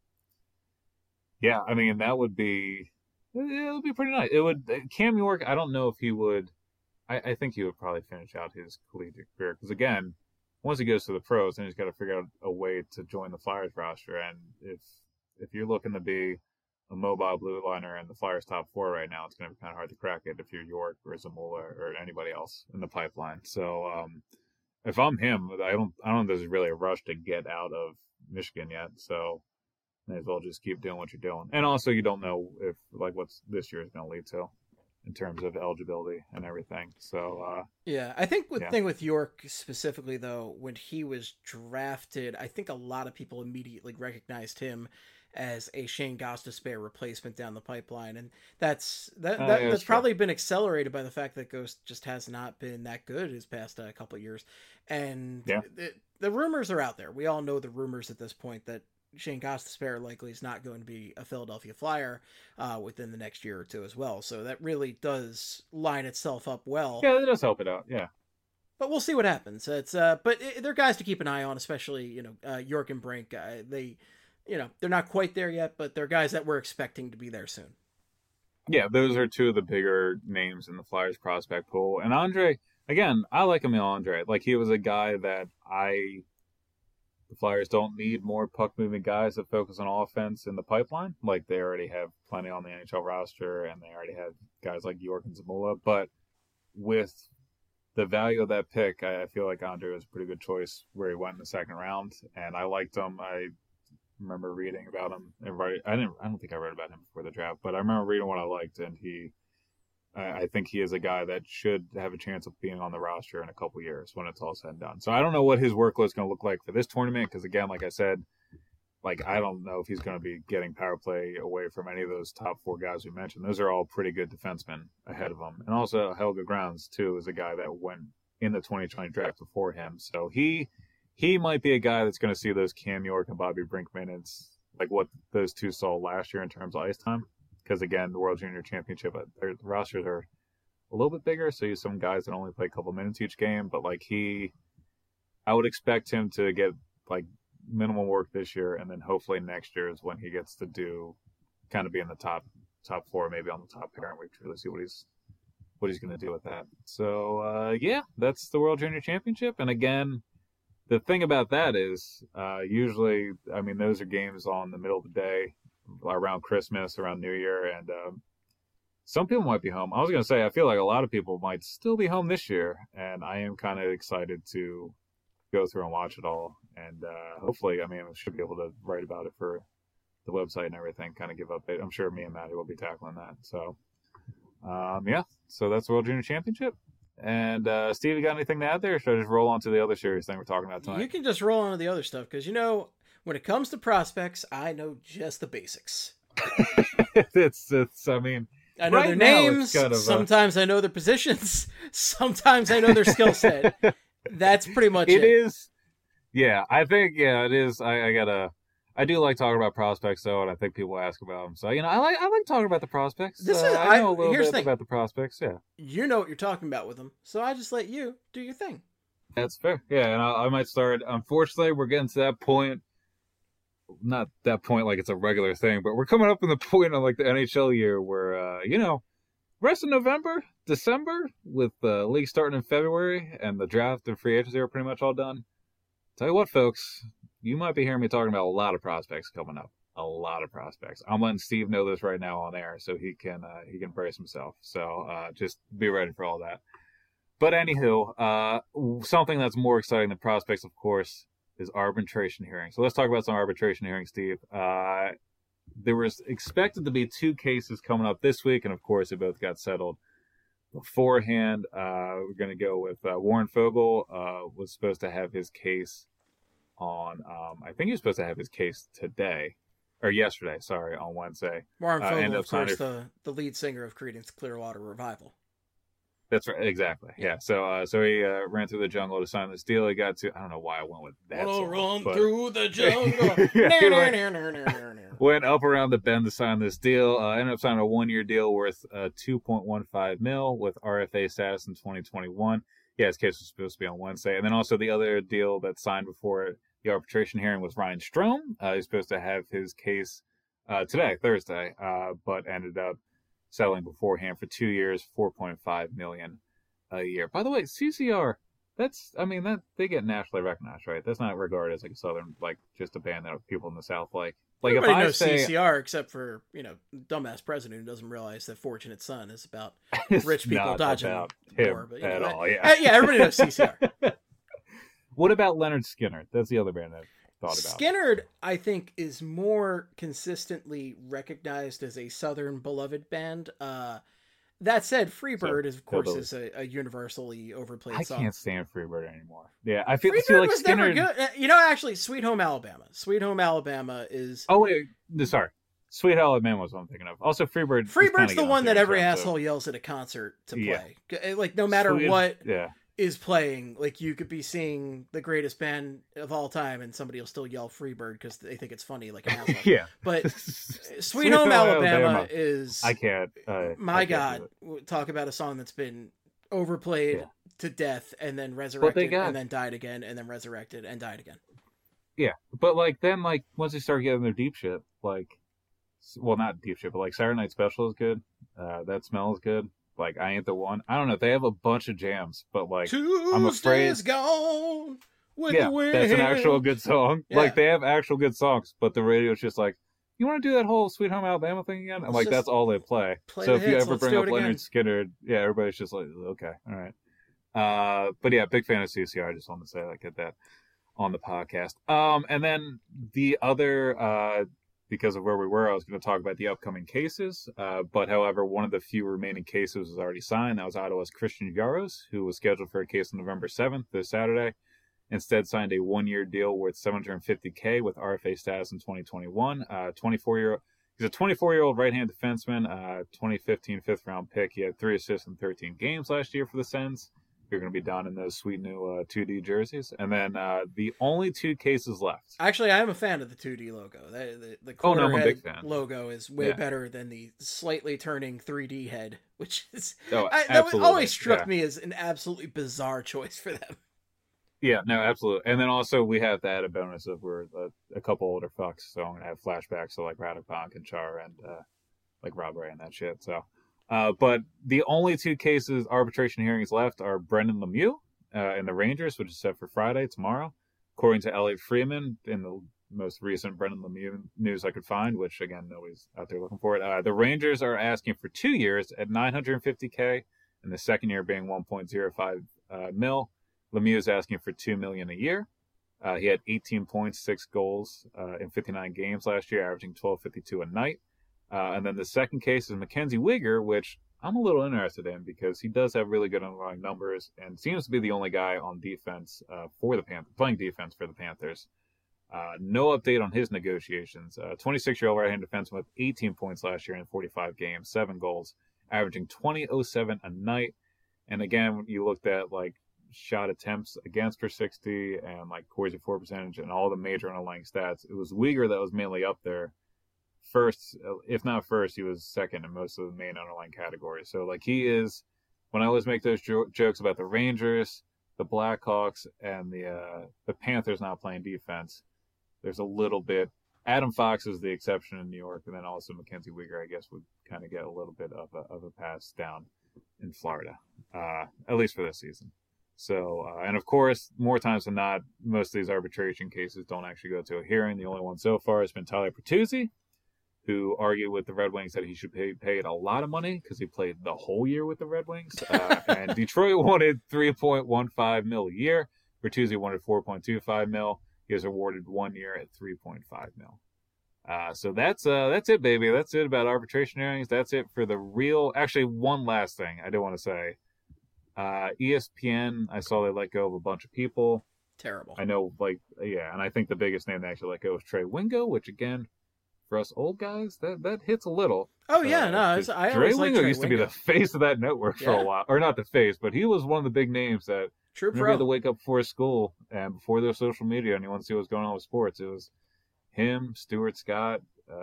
I mean, that would be pretty nice. It would. Cam York, I don't know if he would. I think he would probably finish out his collegiate career, because again, once he goes to the pros, then he's got to figure out a way to join the Flyers roster. And if you're looking to be a mobile blue liner in the Flyers top 4 right now, it's going to be kind of hard to crack it if you're York or Zamula or anybody else in the pipeline. So if I'm him, I don't know if there's really a rush to get out of Michigan yet. So may as well just keep doing what you're doing. And also, you don't know if what's this year is going to lead to in terms of eligibility and everything. So I think the thing with York specifically, though, when he was drafted, I think a lot of people immediately recognized him as a Shane Gostisbehere replacement down the pipeline, and that's probably been accelerated by the fact that Ghost just has not been that good his past couple of years. And the rumors are out there. We all know the rumors at this point that Shane Gostisbehere likely is not going to be a Philadelphia Flyer within the next year or two as well. So that really does line itself up well. Yeah, it does help it out. Yeah. But we'll see what happens. It's they're guys to keep an eye on, especially York and Brink. They're not quite there yet, but they're guys that we're expecting to be there soon. Yeah, those are two of the bigger names in the Flyers prospect pool. And Andre, again, I like Emil Andre. He was a guy that the Flyers don't need more puck-moving guys that focus on offense in the pipeline. They already have plenty on the NHL roster, and they already have guys like York and Zamula. But with the value of that pick, I feel like Andre was a pretty good choice where he went in the second round, and I liked him. I remember reading about him. I don't think I read about him before the draft, but I remember reading what I liked, and I think he is a guy that should have a chance of being on the roster in a couple years when it's all said and done. So I don't know what his workload is going to look like for this tournament, because again, like I said, I don't know if he's going to be getting power play away from any of those top 4 guys we mentioned. Those are all pretty good defensemen ahead of him. And also Helge Grounds, too, is a guy that went in the 2020 draft before him. So he might be a guy that's going to see those Cam York and Bobby Brink minutes, like what those two saw last year in terms of ice time. Because, again, the World Junior Championship, their rosters are a little bit bigger, so you have some guys that only play a couple minutes each game. But, I would expect him to get, minimal work this year, and then hopefully next year is when he gets to be in the top 4, maybe on the top pair, and we truly see what he's going to do with that. So, that's the World Junior Championship. And, again, the thing about that is usually, those are games on the middle of the day, around Christmas, around New Year, and some people might be home. I was going to say, I feel like a lot of people might still be home this year, and I am kind of excited to go through and watch it all. And hopefully, I should be able to write about it for the website and everything, kind of give update. I'm sure me and Maddie will be tackling that. So, so that's the World Junior Championship. And Steve, you got anything to add there, or should I just roll on to the other serious thing we're talking about tonight? You can just roll on to the other stuff, because, when it comes to prospects, I know just the basics. I know right their now, it's names. kind of, sometimes I know their positions. Sometimes I know their skill set. That's pretty much it. It is. Yeah, I think, it is. I do like talking about prospects, though, and I think people ask about them. So, I like talking about the prospects. I know a little bit about the prospects, yeah. You know what you're talking about with them, so I just let you do your thing. That's fair. Yeah, and I might start. Unfortunately, we're getting to that point. Not that point like it's a regular thing, but we're coming up in the point of like the NHL year where, rest of November, December, with the league starting in February and the draft and free agency are pretty much all done. Tell you what, folks, you might be hearing me talking about a lot of prospects coming up. A lot of prospects. I'm letting Steve know this right now on air so he can brace himself. So just be ready for all that. But anywho, something that's more exciting than prospects, of course, is arbitration hearings. So let's talk about some arbitration hearings, Steve. There was expected to be 2 cases coming up this week, and of course, they both got settled beforehand. We're going to go with Warren Fogle was supposed to have his case on, I think he was supposed to have his case yesterday, on Wednesday. Warren Fogle, of course, the lead singer of Creedence Clearwater Revival. That's right, exactly. Yeah, so he ran through the jungle to sign this deal. He got to, I don't know why I went with that song. Run through the jungle. Went up around the bend to sign this deal. Ended up signing a 1-year deal worth $2.15 million with RFA status in 2021. Yeah, his case was supposed to be on Wednesday. And then also the other deal that signed before the arbitration hearing was Ryan Strome. He's supposed to have his case today, Thursday, but ended up settling beforehand for 2 years, $4.5 million a year. By the way, CCR, they get nationally recognized, right? That's not regarded as like a Southern, like just a band that people in the South like. Like everybody knows CCR except for, dumbass president who doesn't realize that Fortunate Son is about rich people dodging war. But, at all, yeah. Yeah, everybody knows CCR. What about Leonard Skinner? That's the other band I've thought about. Skinner, I think, is more consistently recognized as a Southern beloved band. That said, Freebird, is a universally overplayed song. I can't stand Freebird anymore. Yeah, I feel like was Skinner. Never good. Actually, Sweet Home Alabama. Sweet Home Alabama is. Oh wait, sorry. Sweet Alabama was what I'm thinking of. Also, Freebird's the one that every asshole yells at a concert to play. Yeah. Like no matter what is playing, like you could be seeing the greatest band of all time, and somebody will still yell Freebird because they think it's funny, like an asshole. Yeah. But Sweet Home Alabama is. I can't. God, talk about a song that's been overplayed to death and then resurrected and then died again and then resurrected and died again. Yeah, but then once they start getting their deep shit, not deep shit, but Saturday Night Special is good. That Smell is good. I Ain't the One. I don't know. They have a bunch of jams, but I'm afraid. Gone with the wind. That's an actual good song. Yeah. They have actual good songs, but the radio's just you want to do that whole Sweet Home Alabama thing again? I'm that's all they play. So if you ever bring up Leonard Skinner, everybody's just okay, all right. But yeah, big fan of CCR. I just wanted to say get that on the podcast. And then the other, because of where we were, I was going to talk about the upcoming cases. But however, one of the few remaining cases was already signed. That was Ottawa's Christian Jaros, who was scheduled for a case on November 7th, this Saturday. Instead signed a 1-year deal worth $750K with RFA status in 2021. He's a 24-year-old right-hand defenseman, 2015 fifth-round pick. He had 3 assists in 13 games last year for the Sens. You're going to be down in those sweet new 2D jerseys. And then the only 2 cases left. Actually, I am a fan of the 2D logo. The I'm a big fan. Logo is way better than the slightly turning 3D head, which is that always struck me as an absolutely bizarre choice for them. Yeah, no, absolutely. And then also we have the added bonus of we're a couple older fucks, so I'm going to have flashbacks to Radek and Char and Rob Ray and that shit, so... but the only 2 cases arbitration hearings left are Brendan Lemieux and the Rangers, which is set for Friday, tomorrow. According to Elliot Freeman, in the most recent Brendan Lemieux news I could find, which, again, nobody's out there looking for it, the Rangers are asking for 2 years at $950K, and the second year being $1.05 mil. Lemieux is asking for $2 million a year. He had 18 points, 6 goals in 59 games last year, averaging $12.52 a night. And then the second case is Mackenzie Weegar, which I'm a little interested in because he does have really good underlying numbers and seems to be the only guy on defense for the Panthers, playing defense for the Panthers. No update on his negotiations. 26-year-old right-handed defenseman with 18 points last year in 45 games, 7 goals, averaging 20.07 a night. And again, you looked at like shot attempts against per 60 and like Corsi for percentage and all the major underlying stats. It was Weegar that was mainly up there. First, if not first, he was second in most of the main underlying categories. So like he is, when I always make those jokes about the Rangers, the Blackhawks, and the Panthers not playing defense, there's a little bit. Adam Fox is the exception in New York, and then also Mackenzie Weegar, I guess, would kind of get a little bit of a pass down in Florida, at least for this season. So, and of course, more times than not, most of these arbitration cases don't actually go to a hearing. The only one so far has been Tyler Bertuzzi, who argued with the Red Wings that he should be paid a lot of money because he played the whole year with the Red Wings. And Detroit wanted $3.15 million a year. Bertuzzi wanted $4.25 million. He was awarded 1 year at $3.5 million. So that's it, baby. That's it about arbitration hearings. That's it for the real. Actually, one last thing I do want to say. ESPN, I saw they let go of a bunch of people. Terrible. I know, and I think the biggest name they actually let go was Trey Wingo, which again, for us old guys, that hits a little. Oh yeah, I Trey always Wingo used to be the face of that network for a while, or not the face, but he was one of the big names that True you had to wake up before school and before their social media, and you want to see what's going on with sports. It was him, Stuart Scott,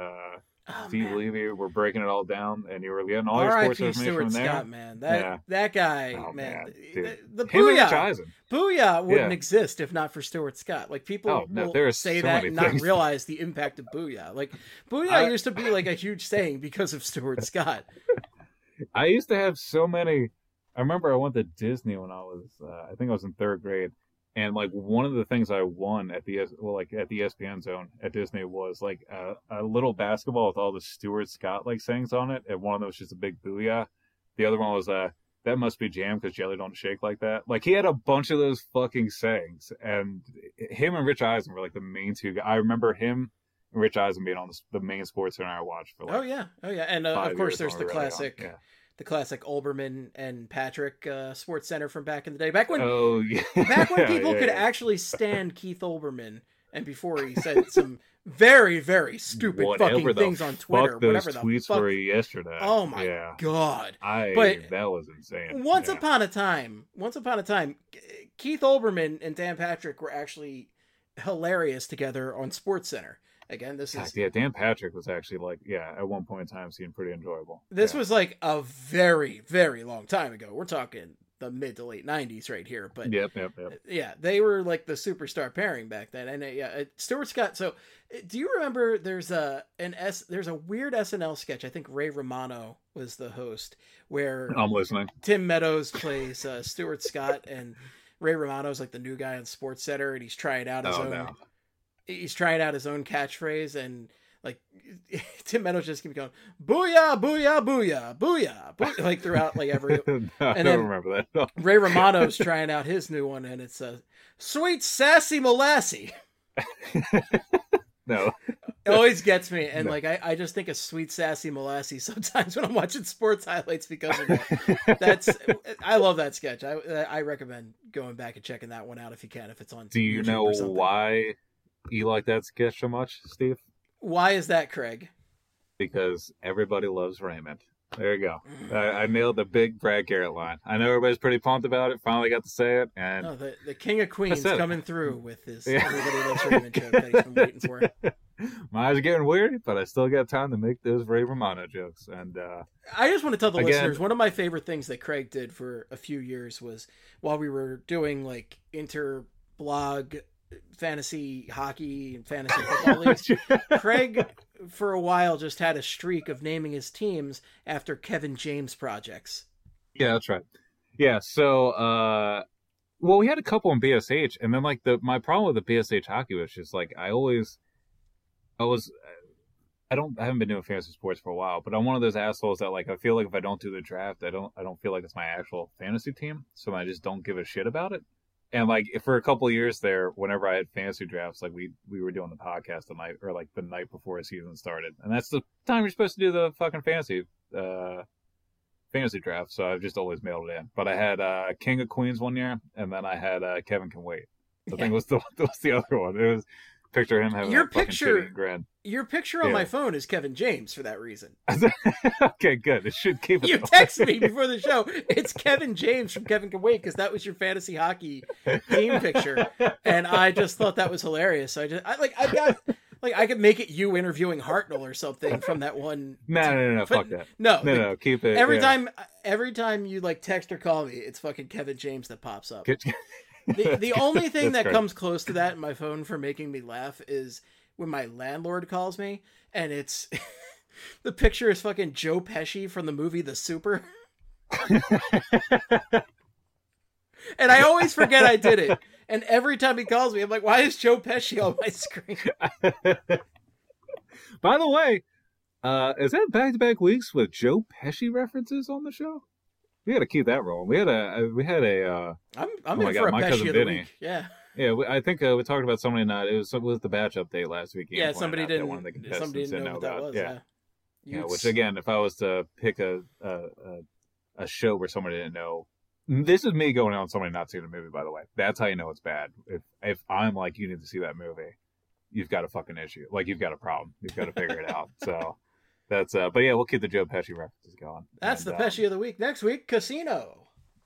Steve Levy were breaking it all down, and you were getting all your sports information from there. Scott, man, that guy, man. The Booyah wouldn't exist if not for Stuart Scott. Like people will say so that and not realize the impact of Booyah. Like Booyah used to be like a huge saying because of Stuart Scott. I used to have so many. I remember I went to Disney when I was, I think I was in 3rd grade. And like one of the things I won at the ESPN Zone at Disney was like a little basketball with all the Stuart Scott like sayings on it, and one of them was just a big booyah. The other one was that must be jam because jelly don't shake like that. Like he had a bunch of those fucking sayings, and him and Rich Eisen were like the main two. I remember him and Rich Eisen being on the main sports center I watched for. Like, oh yeah, and of course there's the classic. Yeah. The classic Olbermann and Patrick Sports Center from back in the day. Back when people could actually stand Keith Olbermann, and before he said some very, very stupid fucking things on Twitter. Whatever the tweets were yesterday. Oh my god! That was insane. Once upon a time, Keith Olbermann and Dan Patrick were actually hilarious together on Sports Center. Again, this is... Yeah, Dan Patrick was actually at one point in time seemed pretty enjoyable. This was like a very, very long time ago. We're talking the mid to late 90s right here. But Yep. Yeah, they were like the superstar pairing back then. And Stuart Scott. So do you remember there's a weird SNL sketch, I think Ray Romano was the host, where I'm listening. Tim Meadows plays Stuart Scott, and Ray Romano's like the new guy on Sports Center, and he's trying out his own... No. He's trying out his own catchphrase, and like Tim Meadows just keeps going, "Booyah, booyah, booyah, booyah," like throughout like every. No, I don't remember that. No. Ray Romano's trying out his new one, and it's "Sweet Sassy Molassie." No, it always gets me, and I just think of Sweet Sassy Molassie sometimes when I'm watching sports highlights because of that. I love that sketch. I recommend going back and checking that one out if you can, if it's on. Do you YouTube know why you like that sketch so much, Steve? Why is that, Craig? Because everybody loves Raymond. There you go. I nailed the big Brad Garrett line. I know everybody's pretty pumped about it. Finally got to say it. And the King of Queens coming through with his Everybody Loves Raymond joke that he's been waiting for. My eyes are getting weary, but I still got time to make those Ray Romano jokes. And I just want to tell the listeners, one of my favorite things that Craig did for a few years was while we were doing like inter-blog fantasy hockey and fantasy football leagues, Craig for a while just had a streak of naming his teams after Kevin James projects. Yeah, that's right. Yeah, so we had a couple in BSH, and then like my problem with the BSH hockey was just like I haven't been doing fantasy sports for a while, but I'm one of those assholes that like I feel like if I don't do the draft, I don't feel like it's my actual fantasy team, so I just don't give a shit about it. And like for a couple of years there, whenever I had fantasy drafts, like we were doing the podcast the night before the season started, and that's the time you're supposed to do the fucking fantasy draft. So I've just always mailed it in. But I had King of Queens one year, and then I had Kevin Can Wait. I think was the other one. It was picture him having Your a fucking picture- shitty grin. Your picture on my phone is Kevin James for that reason. Okay, good. It should keep it. You texted me before the show. It's Kevin James from Kevin Can Wait, because that was your fantasy hockey team picture, and I just thought that was hilarious. So I could make it you interviewing Hartnell or something from that one. No, fuck that. No, keep it. Every time you like text or call me, it's fucking Kevin James that pops up. The only thing that comes close to that in my phone for making me laugh is when my landlord calls me and it's the picture is fucking Joe Pesci from the movie The Super. And I always forget I did it. And every time he calls me, I'm like, why is Joe Pesci on my screen? By the way, is that back-to-back weeks with Joe Pesci references on the show? We got to keep that rolling. We had a. I'm in for a Pesci of the week. Yeah. Yeah, I think we talked about somebody not. It was the batch update last week. Yeah, somebody didn't. Somebody didn't know what that was. Yeah. Which again, if I was to pick a show where somebody didn't know, this is me going on somebody not seeing the movie. By the way, that's how you know it's bad. If I'm like, you need to see that movie, you've got a fucking issue. Like you've got a problem. You've got to figure it out. So that's. But yeah, we'll keep the Joe Pesci references going. That's the Pesci of the week. Next week, Casino.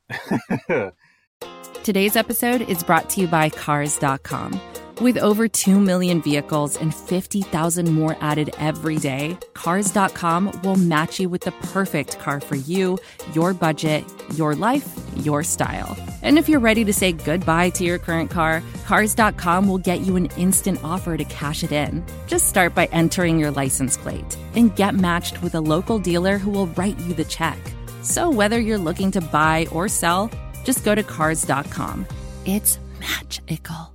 Today's episode is brought to you by Cars.com. With over 2 million vehicles and 50,000 more added every day, Cars.com will match you with the perfect car for you, your budget, your life, your style. And if you're ready to say goodbye to your current car, Cars.com will get you an instant offer to cash it in. Just start by entering your license plate and get matched with a local dealer who will write you the check. So whether you're looking to buy or sell, just go to Cars.com. It's magical.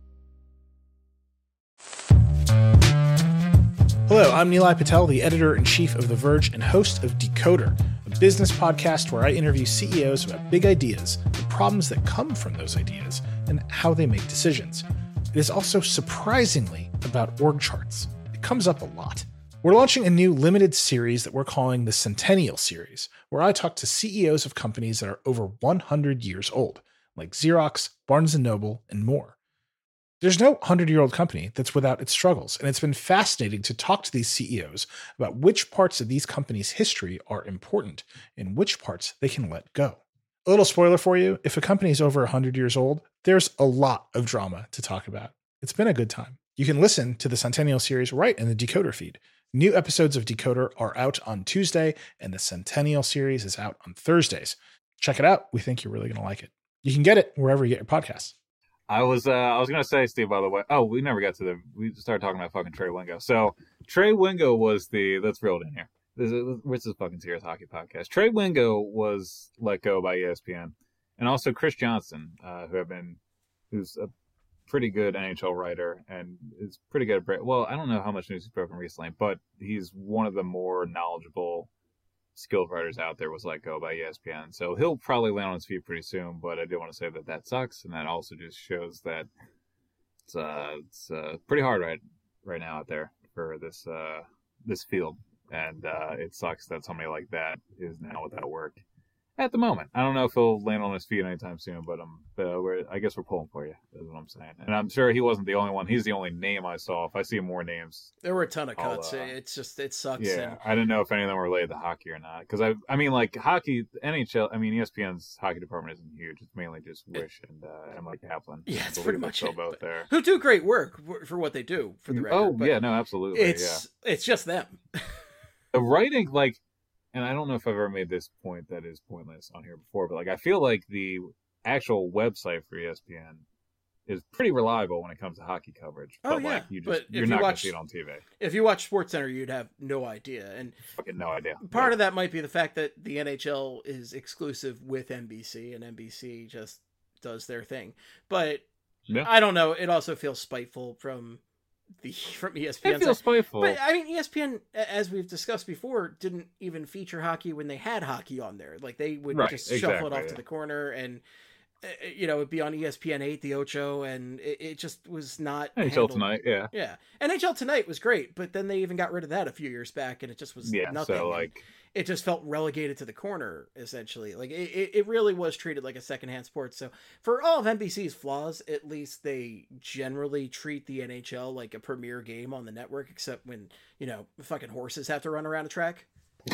Hello, I'm Nilay Patel, the editor-in-chief of The Verge and host of Decoder, a business podcast where I interview CEOs about big ideas, the problems that come from those ideas, and how they make decisions. It is also surprisingly about org charts. It comes up a lot. We're launching a new limited series that we're calling the Centennial Series, where I talk to CEOs of companies that are over 100 years old, like Xerox, Barnes & Noble, and more. There's no 100-year-old company that's without its struggles, and it's been fascinating to talk to these CEOs about which parts of these companies' history are important and which parts they can let go. A little spoiler for you, if a company is over 100 years old, there's a lot of drama to talk about. It's been a good time. You can listen to the Centennial Series right in the Decoder feed. New episodes of Decoder are out on Tuesday, and the Centennial Series is out on Thursdays. Check it out. We think you're really going to like it. You can get it wherever you get your podcasts. I was gonna say, Steve, by the way. Oh, we never got to we started talking about fucking Trey Wingo. So Trey Wingo was let's reel it in here. This is a fucking serious hockey podcast. Trey Wingo was let go by ESPN, and also Chris Johnson, who's a pretty good NHL writer and is pretty good at well, I don't know how much news he's broken recently, but he's one of the more knowledgeable, skilled writers out there, was let go by ESPN. So he'll probably land on his feet pretty soon, but I do want to say that sucks, and that also just shows that it's pretty hard right now out there for this field, and it sucks that somebody like that is now without work at the moment. I don't know if he'll land on his feet anytime soon, but I guess we're pulling for you, is what I'm saying. And I'm sure he wasn't the only one. He's the only name I saw. If I see more names, there were a ton of cuts. It sucks. Yeah, I didn't know if any of them were related to hockey or not. Because I mean, like hockey, NHL. I mean, ESPN's hockey department isn't huge. It's mainly just Wish and Mike Kaplan. Yeah, it's pretty much it. Both there, who do great work for what they do. For the record. Oh yeah, no, absolutely. It's just them. The writing, like. And I don't know if I've ever made this point that is pointless on here before, but like I feel like the actual website for ESPN is pretty reliable when it comes to hockey coverage. Oh, but yeah. like you're not going to see it on TV. If you watch SportsCenter, you'd have no idea. And fucking no idea. Part of that might be the fact that the NHL is exclusive with NBC, and NBC just does their thing. But I don't know. It also feels spiteful from ESPN. It feels spiteful. But I mean, ESPN, as we've discussed before, didn't even feature hockey when they had hockey on there. Like they would just shuffle it off to the corner, and it'd be on ESPN 8, the Ocho, and it just was not NHL Tonight. Yeah. NHL Tonight was great, but then they even got rid of that a few years back, and it just was nothing. So like it just felt relegated to the corner, essentially. Like it really was treated like a secondhand sport. So for all of NBC's flaws, at least they generally treat the NHL like a premier game on the network, except when, fucking horses have to run around a track.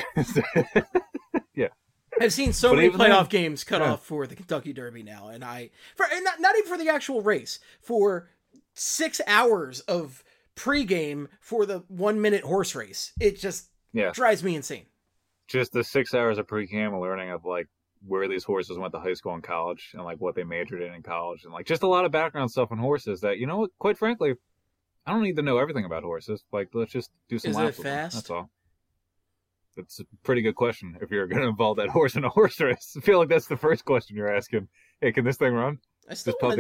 Yeah. I've seen so many playoff games cut off for the Kentucky Derby now, and not even for the actual race, for 6 hours of pregame for the 1 minute horse race. It just drives me insane. Just the 6 hours of pregame and learning of like where these horses went to high school and college, and like what they majored in college, and like just a lot of background stuff on horses that, quite frankly, I don't need to know everything about horses. Like, let's just do some laps with them. That's all. That's a pretty good question if you're going to involve that horse in a horse race. I feel like that's the first question you're asking. Hey, can this thing run? I still want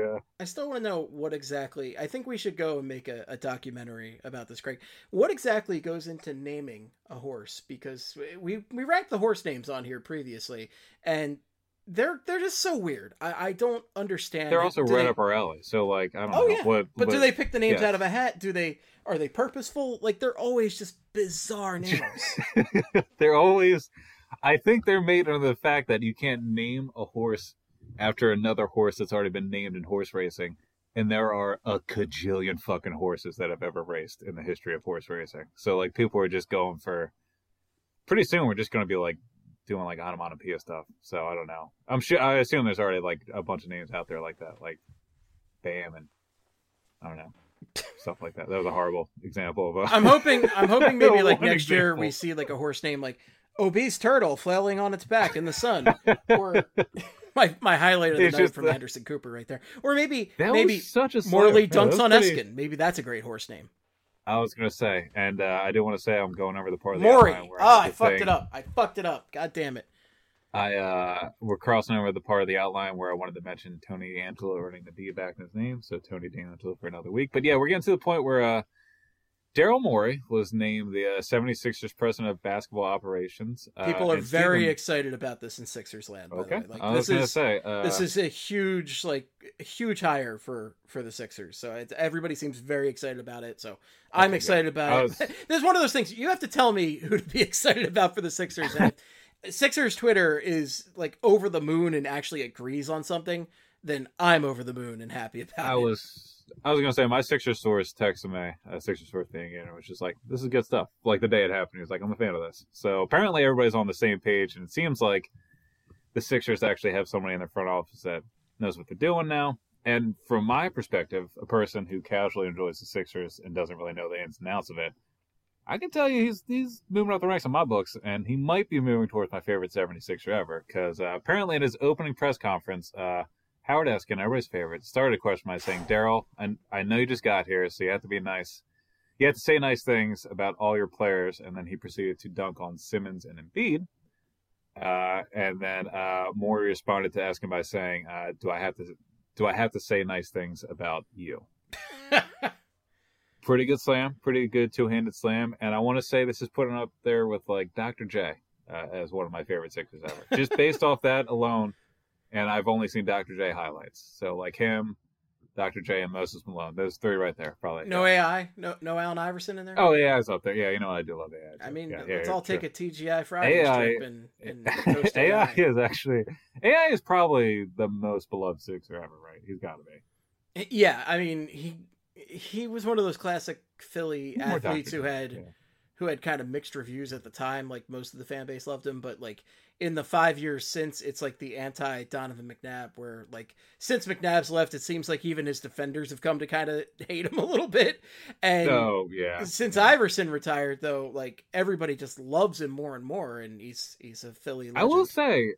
to know what exactly. I think we should go and make a documentary about this, Craig. What exactly goes into naming a horse? Because we ranked the horse names on here previously, and they're just so weird. I don't understand. They're also right up our alley. So like, I don't know. Yeah. But do they pick the names out of a hat? Are they purposeful? Like, they're always just bizarre names. They're always. I think they're made under the fact that you can't name a horse after another horse that's already been named in horse racing, and there are a cajillion fucking horses that have ever raced in the history of horse racing. So like, people are just going for. Pretty soon, we're just going to be like doing like onomatopoeia stuff. So I don't know. I assume there's already like a bunch of names out there like that, like Bam and I don't know. Stuff like that. That was a horrible example of I'm hoping maybe like next year we see like a horse name like Obese Turtle flailing on its back in the sun, or my highlight of the night from Anderson Cooper right there, or maybe such a Morley dunks on Eskin. Maybe that's a great horse name. I was gonna say, and I do want to say I'm going over the part of the Maury. outline where I fucked it up. God damn it. We're crossing over the part of the outline where I wanted to mention Tony D'Angelo earning the D back in his name, so Tony D'Angelo for another week. But yeah, we're getting to the point where Daryl Morey was named the 76ers president of basketball operations. People are very excited about this in Sixers land. By okay, the way. Like, I was going to say this is a huge hire for the Sixers. So everybody seems very excited about it. So I'm excited about it. There's one of those things you have to tell me who to be excited about for the Sixers. And Sixers Twitter is like over the moon and actually agrees on something, then I'm over the moon and happy about it. I was going to say, my Sixers source texted me, a Sixers source thing, and it was just like, this is good stuff. Like, the day it happened, he was like, I'm a fan of this. So, apparently everybody's on the same page, and it seems like the Sixers actually have somebody in their front office that knows what they're doing now. And from my perspective, a person who casually enjoys the Sixers and doesn't really know the ins and outs of it, I can tell you he's moving up the ranks on my books, and he might be moving towards my favorite 76er ever, because apparently in his opening press conference, Howard Eskin, everybody's favorite, started a question by saying, Daryl, I know you just got here, so you have to be nice. You have to say nice things about all your players, and then he proceeded to dunk on Simmons and Embiid. And then Morey responded to Eskin by saying, do I have to say nice things about you? Pretty good slam, pretty good two-handed slam, and I want to say this is putting up there with like Dr. J as one of my favorite Sixers ever. Just based off that alone, and I've only seen Dr. J highlights, so like him, Dr. J, and Moses Malone, those three right there, probably. No AI, no Allen Iverson in there. Oh, AI's up there. Yeah, you know I do love AI. I mean, let's all take a TGI Fridays trip and toast AI is probably the most beloved Sixer ever, right? He's got to be. Yeah, I mean he was one of those classic Philly athletes who had kind of mixed reviews at the time. Like, most of the fan base loved him, but like in the 5 years since, it's like the anti Donovan McNabb, where like since McNabb's left, it seems like even his defenders have come to kind of hate him a little bit. And since Iverson retired, though, like everybody just loves him more and more, and he's a Philly legend. I will say,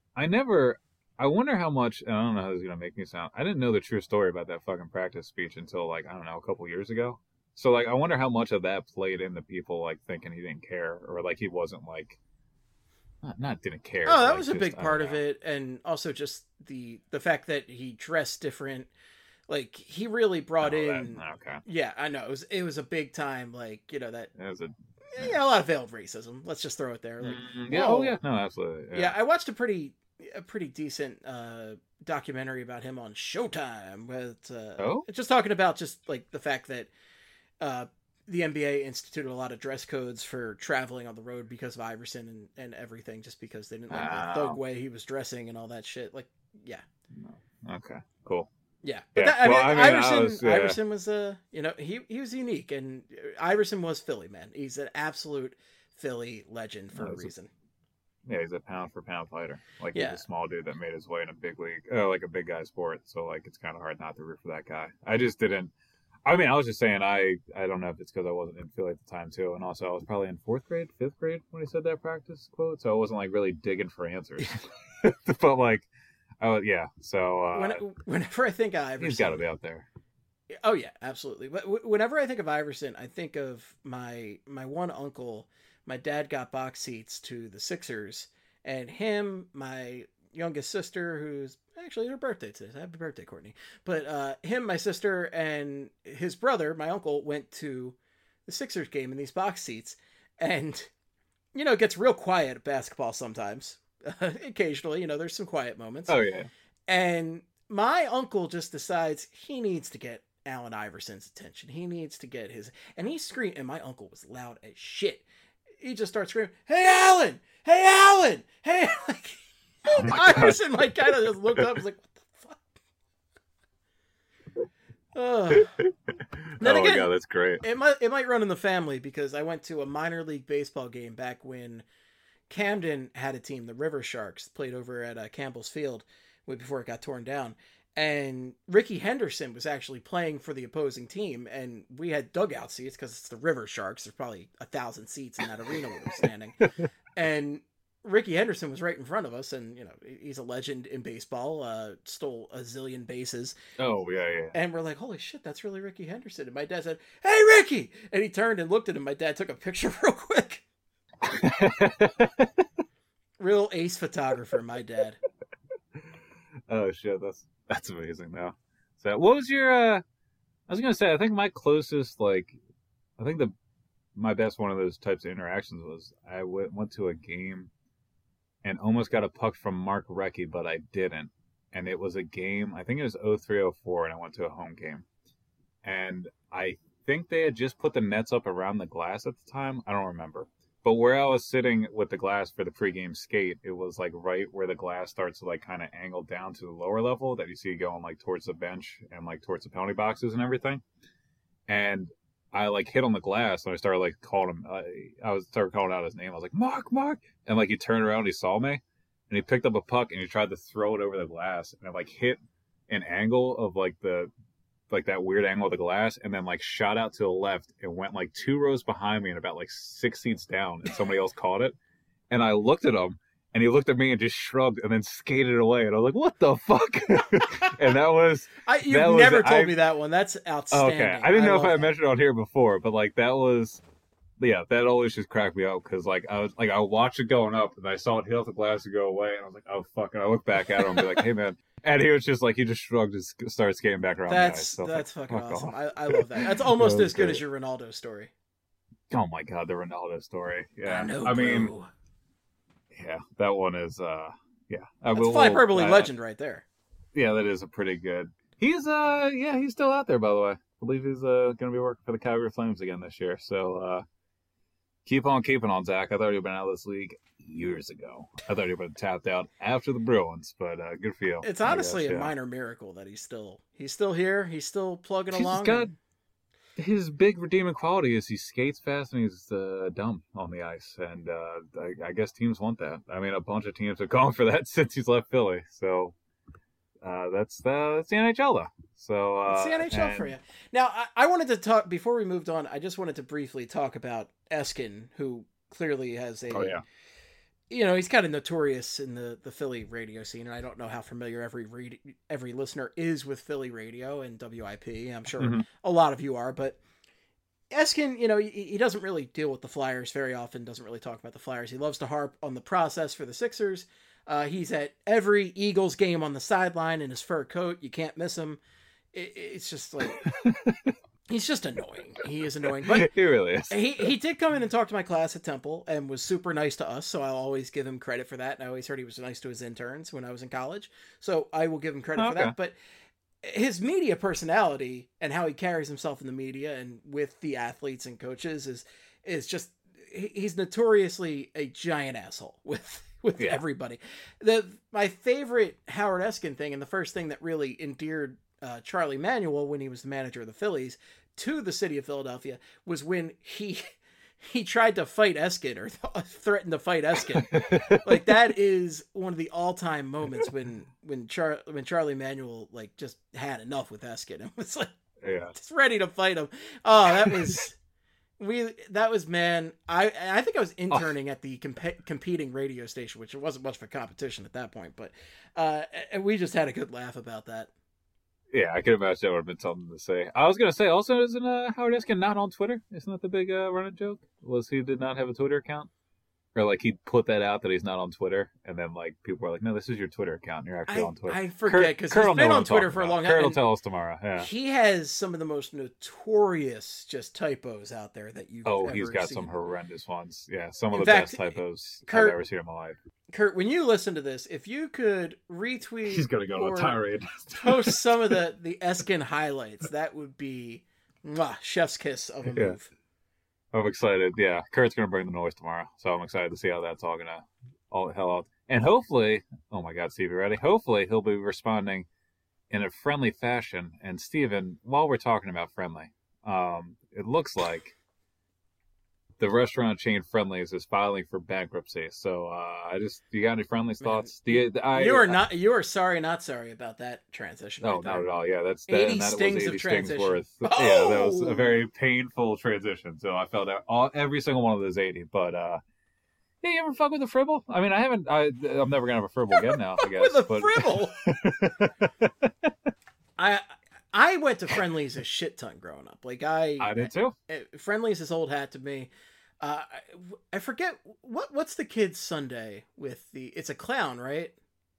I wonder how much, and I don't know how this is going to make me sound, I didn't know the true story about that fucking practice speech until, like, I don't know, a couple years ago. So, like, I wonder how much of that played into people, like, thinking he didn't care, or, like, he wasn't, like, not didn't care. Oh, that was a big part of it, and also just the fact that he dressed different. Like, he really brought in... Okay. Yeah, I know. It was a big time, like, that... It was a lot of veiled racism. Let's just throw it there. Like, no, absolutely. Yeah, I watched a pretty decent documentary about him on Showtime with just talking about just like the fact that the NBA instituted a lot of dress codes for traveling on the road because of Iverson and everything, just because they didn't like the thug way he was dressing and all that shit. Like, yeah. Okay, cool. Yeah, but Iverson was he was unique, and Iverson was Philly, man. He's an absolute Philly legend for a reason. He's a pound for pound fighter. Like, he's a small dude that made his way in a big league, like a big guy sport. So like, it's kind of hard not to root for that guy. I just didn't. I mean, I was just saying, I don't know if it's because I wasn't in Philly at the time too, and also I was probably in 4th grade, 5th grade when he said that practice quote, so I wasn't like really digging for answers. But like, So whenever I think of Iverson, he's got to be out there. Oh yeah, absolutely. But whenever I think of Iverson, I think of my one uncle. My dad got box seats to the Sixers, and him, my youngest sister, who's actually her birthday today. Happy birthday, Courtney. But him, my sister, and his brother, my uncle, went to the Sixers game in these box seats, and it gets real quiet at basketball sometimes. Occasionally, there's some quiet moments. Oh yeah. And my uncle just decides he needs to get Allen Iverson's attention. He needs to get his, and he screamed, and my uncle was loud as shit. He just starts screaming, "Hey, Allen! Hey, Allen! Hey!" Like, Iverson, like, kind of just looked up and was like, "What the fuck?" Then oh again, my God, that's great. It might run in the family, because I went to a minor league baseball game back when Camden had a team, the River Sharks, played over at Campbell's Field way before it got torn down. And Ricky Henderson was actually playing for the opposing team, and we had dugout seats because it's the River Sharks. There's probably 1,000 seats in that arena where we're standing. And Ricky Henderson was right in front of us, and he's a legend in baseball. Stole a zillion bases. Oh yeah. And we're like, holy shit, that's really Ricky Henderson. And my dad said, "Hey, Ricky!" And he turned and looked at him. My dad took a picture real quick. Real ace photographer, my dad. Oh shit, that's amazing though. So what was your I was gonna say, I think my closest, my best one of those types of interactions was I went to a game and almost got a puck from Mark Recchi, but I didn't. And it was a game, I think it was 03-04, and I went to a home game. And I think they had just put the nets up around the glass at the time. I don't remember. But where I was sitting with the glass for the pregame skate, it was like right where the glass starts to like kind of angle down to the lower level that you see going like towards the bench and like towards the penalty boxes and everything. And I like hit on the glass, and I started like calling him. Started calling out his name. I was like, Mark, and like he turned around, and he saw me, and he picked up a puck and he tried to throw it over the glass, and it like hit an angle of like that weird angle of the glass, and then like shot out to the left and went like 2 rows behind me and about like 6 seats down, and somebody else caught it. And I looked at him, and he looked at me and just shrugged and then skated away. And I was like, what the fuck? And that was... You've never told me that one. That's outstanding. Okay. I didn't know if I mentioned it on here before, but like that was... Yeah, that always just cracked me up, because like I watched it going up, and I saw it hit off the glass and go away, and I was like, oh fuck. And I looked back at him and be like, hey man. And he was just like, he just shrugged and started skating back around. That's fucking awesome. I love that. That's almost as good as your Ronaldo story. Oh my God, the Ronaldo story. Yeah. I mean, yeah, that one is, yeah. That's Flyperbole legend right there. Yeah, that is a pretty good. He's still out there, by the way. I believe he's going to be working for the Calgary Flames again this year. So, keep on keeping on, Zach. I thought you'd been out of this league years ago. I thought you'd been tapped out after the Bruins, but good for you. It's honestly a minor miracle that he's still here. He's still plugging along. He's got his big redeeming quality is he skates fast and he's dumb on the ice, and I guess teams want that. I mean, a bunch of teams have gone for that since he's left Philly. So that's the NHL, though. So it's the NHL for you. Now, I wanted to talk before we moved on. I just wanted to briefly talk about Eskin, who clearly has a. Oh yeah. He's kind of notorious in the Philly radio scene, and I don't know how familiar every listener is with Philly radio and WIP. I'm sure a lot of you are, but Eskin, he doesn't really deal with the Flyers very often, doesn't really talk about the Flyers. He loves to harp on the process for the Sixers. He's at every Eagles game on the sideline in his fur coat. You can't miss him. It's just like... He's just annoying. He is annoying. But he really is. He did come in and talk to my class at Temple and was super nice to us, so I'll always give him credit for that. And I always heard he was nice to his interns when I was in college, so I will give him credit for that. But his media personality and how he carries himself in the media and with the athletes and coaches is just, he's notoriously a giant asshole with everybody. My favorite Howard Eskin thing, and the first thing that really endeared Charlie Manuel when he was the manager of the Phillies to the city of Philadelphia, was when he tried to fight Eskin, or threatened to fight Eskin. Like, that is one of the all-time moments when Charlie Manuel like just had enough with Eskin and was like, just ready to fight him. Oh, that was man. I think I was interning at the competing radio station, which wasn't much of a competition at that point, but and we just had a good laugh about that. Yeah, I could imagine that would have been something to say. I was going to say, also, isn't Howard Eskin not on Twitter? Isn't that the big running joke? Was he did not have a Twitter account? Or, like, he put that out that he's not on Twitter, and then, like, people were like, no, this is your Twitter account, and you're actually on Twitter. I forget, because he's been on Twitter for a long time. Kurt will tell us tomorrow, yeah. He has some of the most notorious just typos out there that you've ever he's got seen. some horrendous ones. Yeah, some of In the fact, best typos Kurt, I've ever seen in my life. Kurt, when you listen to this, if you could retweet He's going to go on a tirade. post some of the Eskin highlights, that would be chef's kiss of a move. I'm excited. Yeah, Kurt's going to bring the noise tomorrow, so I'm excited to see how that's all going to all the hell out. And hopefully, oh my God, Steve, you ready? Hopefully he'll be responding in a friendly fashion. And Steven, while we're talking about friendly, it looks like the restaurant chain Friendly's is filing for bankruptcy. So you got any Friendly's thoughts? You are sorry, not sorry about that transition. No, not at all. Yeah, that's 80 that stings was 80 of stings transition. worth. Oh! Yeah, that was a very painful transition. So I felt every single one of those 80. But yeah, you ever fuck with a Fribble? I mean, I haven't. I'm never gonna have a Fribble again now. I guess. With a Fribble. I went to Friendly's a shit ton growing up. Like I did too. Friendly's is old hat to me. I forget what's the kids' sundae with it's a clown, right?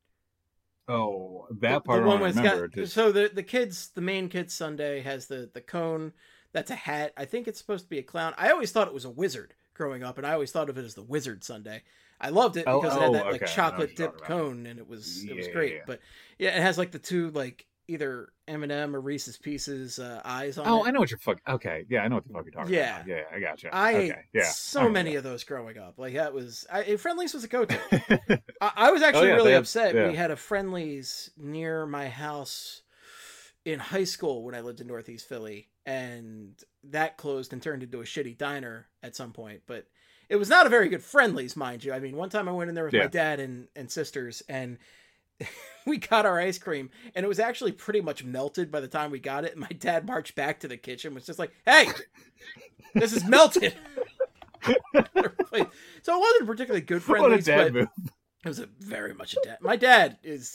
Oh, that part I remember. So the main kids' sundae has the cone that's a hat. I think it's supposed to be a clown. I always thought it was a wizard growing up, and I always thought of it as the wizard sundae. I loved it because it had that like chocolate dipped cone, and it was great. Yeah. But yeah, it has like the two like either M&M or Reese's Pieces eyes on it. Oh, I know what you're fucking... Okay, yeah, I know what the fuck you're talking about. Yeah, I gotcha. I ate so many of those growing up. Like, that was... Friendly's was a go-to. I was actually really upset. Yeah. We had a Friendly's near my house in high school when I lived in Northeast Philly, and that closed and turned into a shitty diner at some point. But it was not a very good Friendly's, mind you. I mean, one time I went in there with my dad and sisters, and... we got our ice cream, and it was actually pretty much melted by the time we got it. And my dad marched back to the kitchen, was just like, "Hey, this is melted." So it wasn't a particularly good Friendly's, but move. It was very much a dad. My dad is,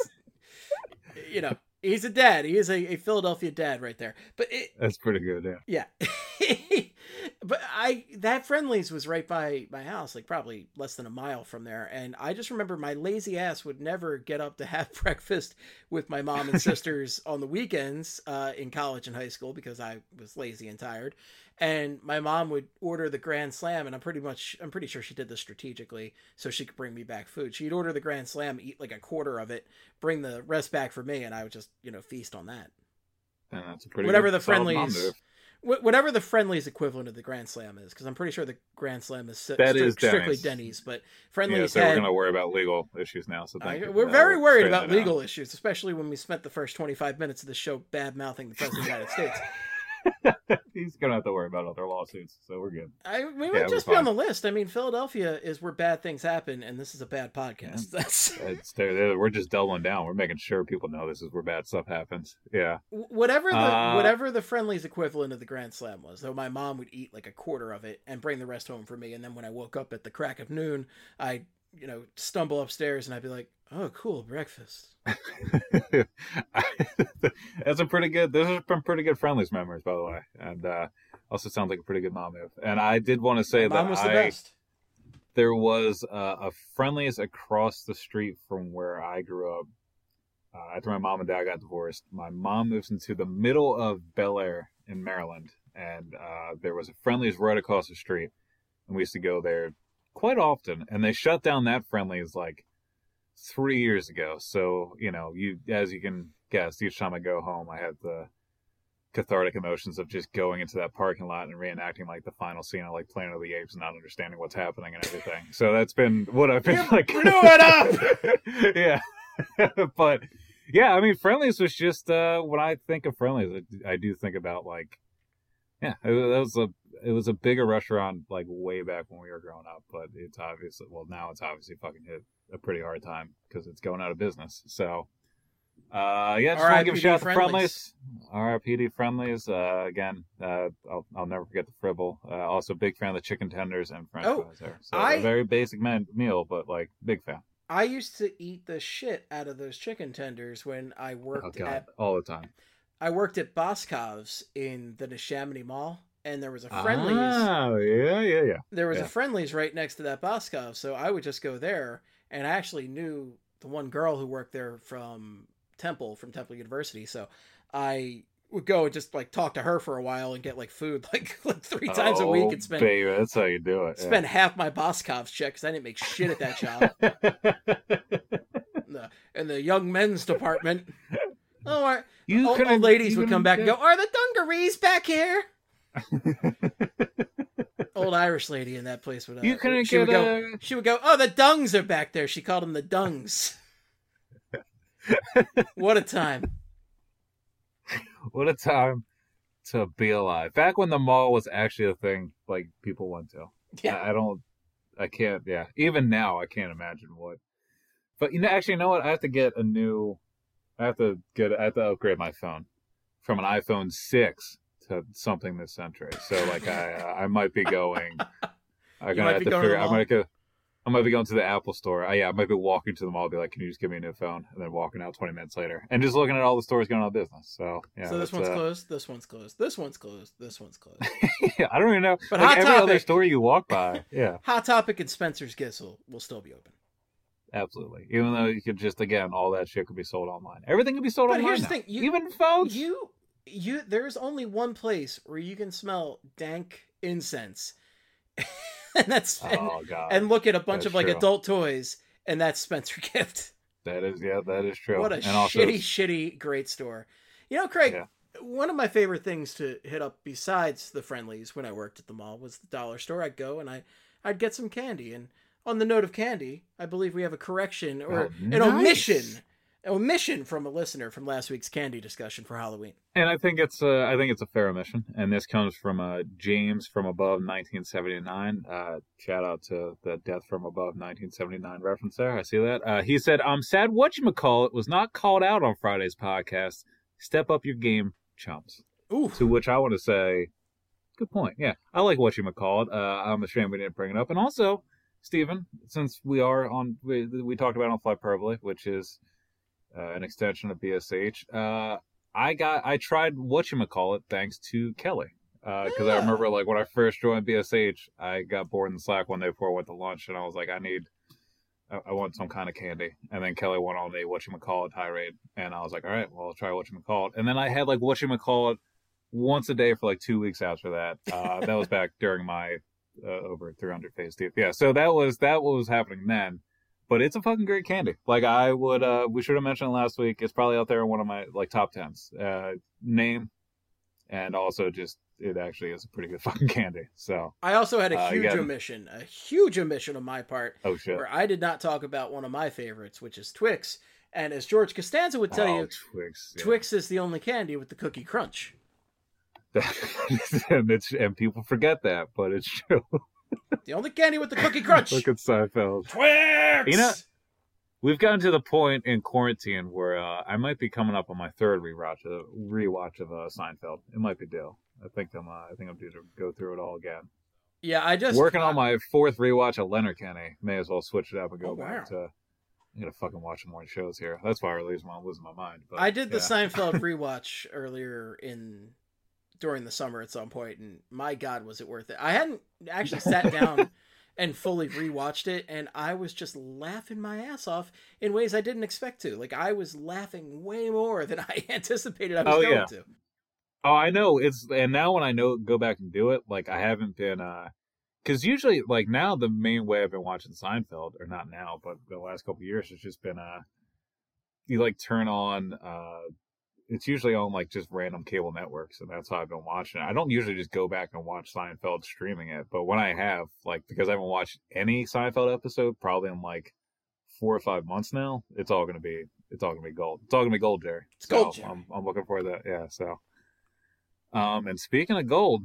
he's a dad. He is a Philadelphia dad right there. But that's pretty good, yeah. But that Friendly's was right by my house, like probably less than a mile from there. And I just remember my lazy ass would never get up to have breakfast with my mom and sisters on the weekends in college and high school because I was lazy and tired. And my mom would order the Grand Slam, and I'm pretty sure she did this strategically so she could bring me back food. She'd order the Grand Slam, eat like a quarter of it, bring the rest back for me, and I would just, feast on that. That's a pretty whatever the Friendly's equivalent of the Grand Slam is, because I'm pretty sure the Grand Slam is strictly Denny's, but Friendly's we're going to worry about legal issues now. So we're very worried about legal issues, especially when we spent the first 25 minutes of the show bad-mouthing the President of the United States. He's going to have to worry about other lawsuits, so we're good. We would just be on the list. I mean, Philadelphia is where bad things happen, and this is a bad podcast. We're just doubling down. We're making sure people know this is where bad stuff happens. Yeah. Whatever the Friendly's equivalent of the Grand Slam was, though my mom would eat like a quarter of it and bring the rest home for me, and then when I woke up at the crack of noon, I'd stumble upstairs and I'd be like, "Oh, cool, breakfast." Those are pretty good Friendly's memories, by the way, and also sounds like a pretty good mom move. And I did want to say that there was a Friendly's across the street from where I grew up. After my mom and dad got divorced, my mom moves into the middle of Bel Air in Maryland, and there was a Friendly's right across the street, and we used to go there quite often. And they shut down that Friendly's like 3 years ago. So, as you can guest, each time I go home, I have the cathartic emotions of just going into that parking lot and reenacting like the final scene of like Planet of the Apes and not understanding what's happening and everything. So that's been what I've been like. Blew it up. Yeah. But yeah, I mean, Friendlies was just when I think of Friendlies, I do think about like, yeah, it was a bigger restaurant like way back when we were growing up, but it's obviously, well, now it's obviously fucking hit a pretty hard time because it's going out of business. So yeah, just want to give a shout out to Friendlies. RIPD Friendlies. Again, I'll never forget the Fribble. Also, big fan of the chicken tenders and French fries there. So a very basic meal, but like big fan. I used to eat the shit out of those chicken tenders when I worked all the time. I worked at Boscov's in the Neshaminy Mall, and there was a Friendlies. Oh, yeah. There was a Friendlies right next to that Boscov, so I would just go there, and I actually knew the one girl who worked there from Temple University, so I would go and just like talk to her for a while and get like food like 3 times a week and spend. Baby, that's how you do it. Spend half my Boscov's check because I didn't make shit at that job. In the young men's department. Oh, old ladies would come back and go, "Are the dungarees back here?" Old Irish lady in that place would. She would go, "Oh, the dungs are back there." She called them the dungs. What a time! What a time to be alive. Back when the mall was actually a thing, like people went to. Yeah. I can't. Yeah. Even now, I can't imagine what. But you know what? I have to upgrade my phone from an iPhone 6 to something this century. So like I might be going. I'm gonna have to figure. I might be going to the Apple store. I might be walking to the mall, be like, "Can you just give me a new phone?" And then walking out 20 minutes later, and just looking at all the stores going out of business. So yeah. So this one's closed. This one's closed. This one's closed. This one's closed. Yeah, I don't even know. But like every other store you walk by, yeah. Hot Topic and Spencer's Gifts will still be open. Absolutely. Even though you could just, again, all that shit could be sold online. Everything could be sold online. But here's the thing. Even phones. There's only one place where you can smell dank incense. And and look at a bunch of like adult toys, and that's Spencer Gift. That is true. What a shitty great store. You know, Craig, one of my favorite things to hit up besides the Friendlies when I worked at the mall was the dollar store. I'd go and I'd get some candy. And on the note of candy, I believe we have a correction or an omission from a listener from last week's candy discussion for Halloween. And I think it's a fair omission. And this comes from James from Above 1979. Shout out to the Death from Above 1979 reference there. I see that. He said, "I'm sad whatchamacallit was not called out on Friday's podcast. Step up your game, chumps." Ooh. To which I want to say, good point. Yeah, I like whatchamacallit. I'm ashamed we didn't bring it up. And also, Stephen, since we are on, we talked about it on Flyperbole, which is an extension of BSH. I tried whatchamacallit thanks to Kelly. Because I remember, like, when I first joined BSH, I got bored in the Slack one day before I went to lunch, and I was like, I want some kind of candy. And then Kelly went on a whatchamacallit tirade, and I was like, all right, well, I'll try whatchamacallit. And then I had, like, whatchamacallit once a day for, like, 2 weeks after that. That was back during my over 300 phase deep. Yeah, so that was what was happening then. But it's a fucking great candy. Like, I would, we should have mentioned it last week. It's probably out there in one of my, like, top 10s. Name, and also just, it actually is a pretty good fucking candy. So I also had a huge omission on my part. Oh, shit. Where I did not talk about one of my favorites, which is Twix. And as George Costanza would tell you, Twix is the only candy with the cookie crunch. And people forget that, but it's true. The only candy with the cookie crunch. Look at Seinfeld. Twix! You know, we've gotten to the point in quarantine where I might be coming up on my third rewatch of Seinfeld. It might be due. I think I'm due to go through it all again. Yeah, I just working on my fourth rewatch of Letterkenny. May as well switch it up and go back to. I gotta fucking watch some more shows here. That's why I'm losing my mind. But, I did the Seinfeld rewatch earlier during the summer at some point, and my God, was it worth it? I hadn't actually sat down and fully rewatched it, and I was just laughing my ass off in ways I didn't expect to. Like, I was laughing way more than I anticipated I was going to. Oh, I know. And now when I go back and do it, like, I haven't been, because usually, like, now the main way I've been watching Seinfeld, or not now, but the last couple of years, has just been, you like turn on, it's usually on like just random cable networks, and that's how I've been watching it. I don't usually just go back and watch Seinfeld streaming it, but when I have, like, because I haven't watched any Seinfeld episode probably in like 4 or 5 months now, it's all gonna be gold. It's all gonna be gold, Jerry. It's gold, Jerry. I'm looking for that. Yeah. So, and speaking of gold,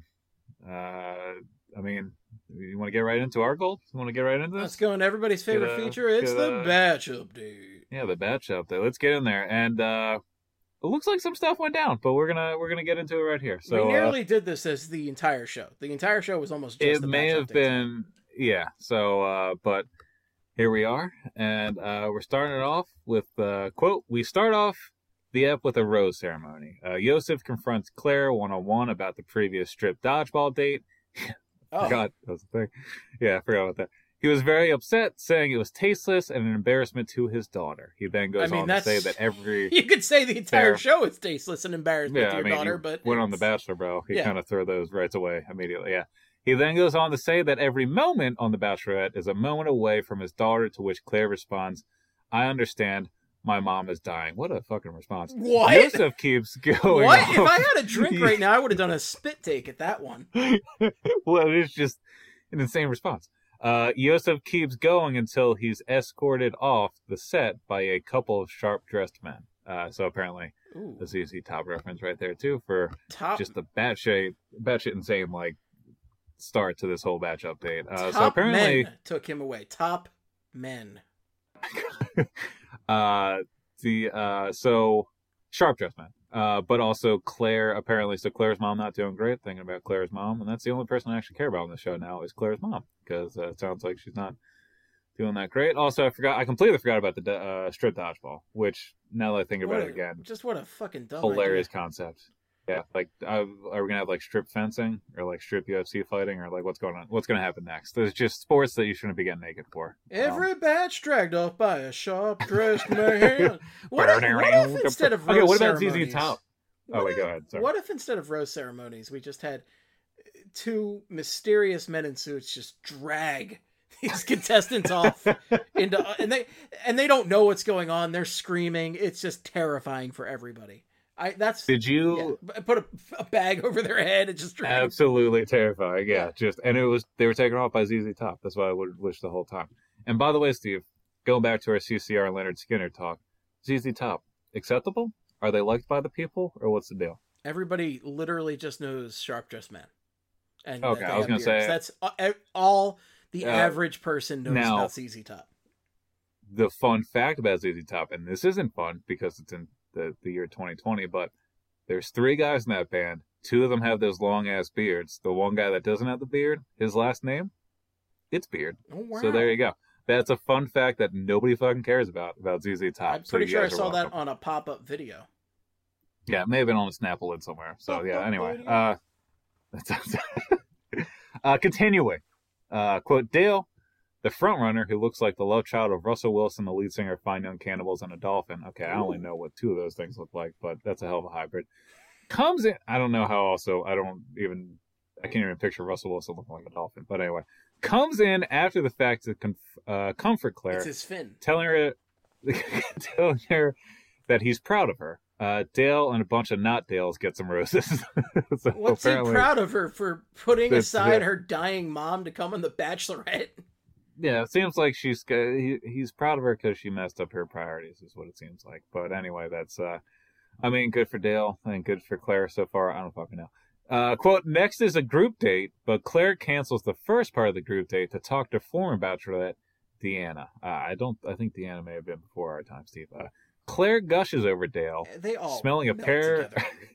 I mean, you want to get right into our gold? You want to get right into this? Let's go into everybody's favorite feature. It's the batch update. Yeah, the batch update. Let's get in there. And it looks like some stuff went down, but we're gonna get into it right here. So we nearly did this as the entire show. The entire show was almost just it may have been, yeah. So, but here we are, and we're starting it off with quote. We start off the ep with a rose ceremony. Yosef confronts Claire one-on-one about the previous strip dodgeball date. Forgot that was the thing. Yeah, I forgot about that. He was very upset, saying it was tasteless and an embarrassment to his daughter. He then goes on to say that every... You could say the entire show is tasteless and embarrassment to your daughter, but... went on The Bachelor, bro. He kind of threw those rights away immediately, yeah. He then goes on to say that every moment on The Bachelorette is a moment away from his daughter, to which Claire responds, I understand. My mom is dying. What a fucking response. What? Yosef keeps going What? off. If I had a drink right now, I would have done a spit take at that one. Well, it's just an insane response. Yosef keeps going until he's escorted off the set by a couple of sharp-dressed men. So apparently, the ZZ Top reference right there, too, for just the batshit insane, like, start to this whole batch update. So apparently... men took him away. Top men. So sharp-dressed men. But also Claire, apparently, so Claire's mom not doing great, thinking about Claire's mom, and that's the only person I actually care about on the show now is Claire's mom, because it sounds like she's not doing that great. Also, I completely forgot about the strip dodgeball, which, now that I think about it again, just what a fucking dumb hilarious idea. Concept. Yeah, like, are we gonna have like strip fencing or like strip UFC fighting, or like what's going on? What's gonna happen next? There's just sports that you shouldn't be getting naked for. Every batch dragged off by a sharp-dressed man. What if instead of rose what about ceremonies, ZZ Top? Oh wait, go ahead. Sorry. What if instead of rose ceremonies, we just had two mysterious men in suits just drag these contestants off into, and they don't know what's going on. They're screaming. It's just terrifying for everybody. Did you put a bag over their head and just drag absolutely terrifying? Yeah, they were taken off by ZZ Top. That's what I would wish the whole time. And by the way, Steve, going back to our CCR and Leonard Skinner talk, ZZ Top acceptable? Are they liked by the people, or what's the deal? Everybody literally just knows sharp-dressed men. And okay, I was going to say that's all the average person knows about ZZ Top. The fun fact about ZZ Top, and this isn't fun because it's in the year 2020, but there's 3 guys in that band. 2 of them have those long-ass beards. The one guy that doesn't have the beard, his last name, it's Beard. Oh, wow. So there you go. That's a fun fact that nobody fucking cares about ZZ Top. I'm pretty sure I saw that on a pop-up video. Yeah, it may have been on a Snapple lid somewhere. So yeah, anyway. Continuing. Quote, Dale, the frontrunner who looks like the love child of Russell Wilson, the lead singer of Fine Young Cannibals, and a dolphin. Okay, I only know what 2 of those things look like, but that's a hell of a hybrid. Comes in, I don't know how also, I can't even picture Russell Wilson looking like a dolphin, but anyway. Comes in after the fact to comfort Claire. It's his fin. Telling her that he's proud of her. Dale and a bunch of not Dales get some roses. So what's he proud of her for putting aside her dying mom to come on The Bachelorette? Yeah, it seems like he's proud of her because she messed up her priorities, is what it seems like. But anyway, that's, good for Dale and good for Claire so far. I don't fucking know. Quote, next is a group date, but Claire cancels the first part of the group date to talk to former Bachelorette, Deanna. I think Deanna may have been before our time, Steve. Claire gushes over Dale, smelling a pair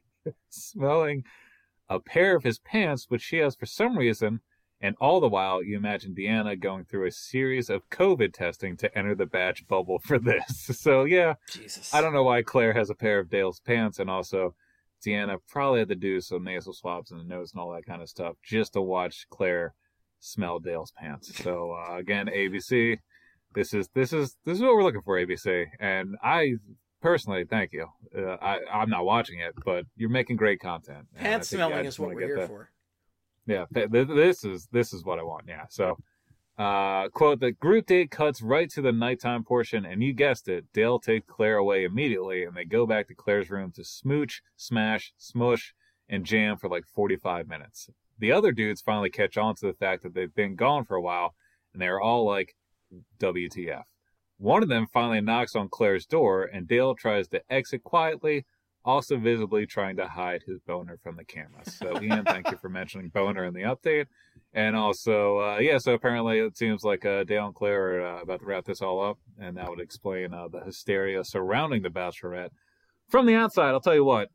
of his pants, which she has for some reason. And all the while, you imagine Deanna going through a series of COVID testing to enter the batch bubble for this. So, yeah, Jesus. I don't know why Claire has a pair of Dale's pants, and also Deanna probably had to do some nasal swabs in the nose and all that kind of stuff just to watch Claire smell Dale's pants. So, again, ABC, this is what we're looking for, ABC. And I personally, thank you. I'm not watching it, but you're making great content. Pants smelling is what we're here for. Yeah, this is what I want. Yeah, so Quote, the group date cuts right to the nighttime portion, and you guessed it, Dale takes Claire away immediately, and they go back to Claire's room to smooch, smash, smush, and jam for like 45 minutes. The other dudes finally catch on to the fact that they've been gone for a while, and they're all like, WTF. One of them finally knocks on Claire's door, and Dale tries to exit quietly, also visibly trying to hide his boner from the camera. So, Ian, thank you for mentioning boner in the update. And also, so apparently it seems like Dale and Claire are about to wrap this all up, and that would explain the hysteria surrounding the Bachelorette. From the outside, I'll tell you what,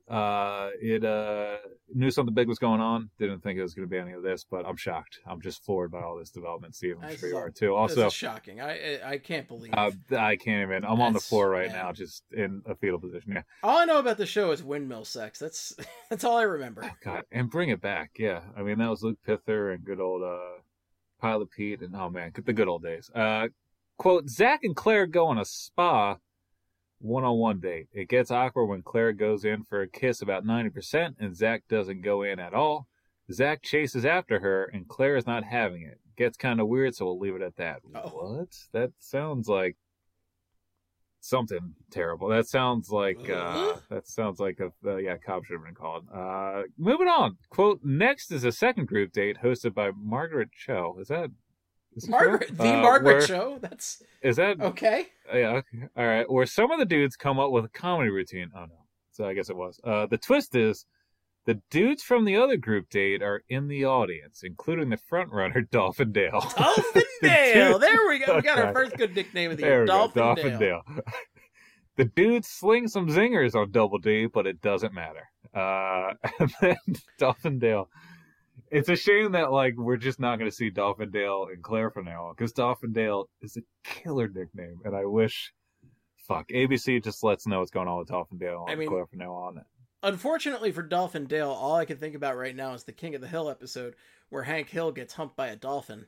it knew something big was going on. Didn't think it was going to be any of this, but I'm shocked. I'm just floored by all this development. Steve, I'm sure you are too. Also, this is shocking. I can't believe. I can't even. I'm on the floor right now, just in a fetal position. Yeah. All I know about the show is windmill sex. That's all I remember. Oh, God, and bring it back. Yeah, I mean that was Luke Pither and good old Pilot Pete, and oh man, the good old days. Quote: Zach and Claire go on a spa one-on-one date. It gets awkward when Claire goes in for a kiss about 90% and Zach doesn't go in at all. Zach chases after her and Claire is not having it. Gets kind of weird, so we'll leave it at that. Oh. What? That sounds like something terrible. That sounds like cop should have been called. Moving on. Quote, next is a second group date hosted by Margaret Cho. Is that Margaret Margaret Show? Is that okay? Yeah, okay. All right. Where some of the dudes come up with a comedy routine. Oh no. So I guess it was. The twist is the dudes from the other group date are in the audience, including the front runner, Dolphin Dale. Dolphin Dale! There we go. We got our first good nickname of the year. Dolphin Dale. The dudes sling some zingers on Double D, but it doesn't matter. And then Dolphin Dale. It's a shame that we're just not going to see Dolphin Dale and Claire from now on, because Dolphin Dale is a killer nickname, and I wish, ABC just lets know what's going on with Dolphin Dale and Claire from now on. Unfortunately for Dolphin Dale, all I can think about right now is the King of the Hill episode where Hank Hill gets humped by a dolphin.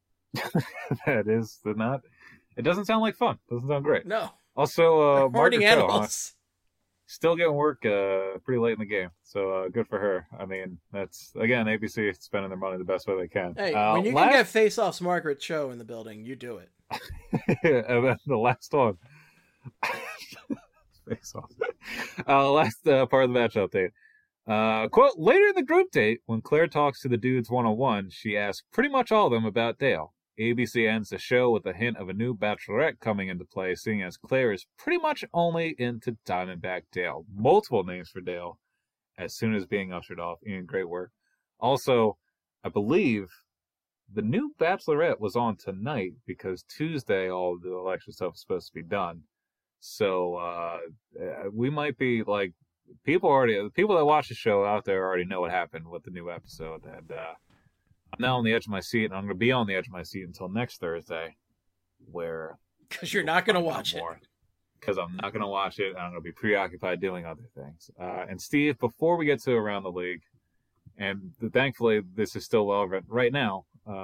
That is not. It doesn't sound like fun. Doesn't sound great. No. Also, Margaret animals. Still getting work pretty late in the game, so good for her. I mean, that's, again, ABC spending their money the best way they can. Hey, when you can get Face-Off's Margaret Cho in the building, you do it. And then the last one. Face-Off. Last part of the match update. Quote, later in the group date, when Claire talks to the dudes one-on-one, she asks pretty much all of them about Dale. ABC ends the show with a hint of a new bachelorette coming into play, seeing as Claire is pretty much only into Diamondback Dale. Multiple names for Dale as soon as being ushered off. Ian, great work. Also, I believe the new bachelorette was on tonight because Tuesday all of the election stuff is supposed to be done. So we might be people that watch the show out there already know what happened with the new episode, and I'm now on the edge of my seat, and I'm going to be on the edge of my seat until next Thursday, where... Because you're not going to watch it. Because I'm not going to watch it, and I'm going to be preoccupied doing other things. And Steve, before we get to Around the League, and thankfully this is still relevant right now,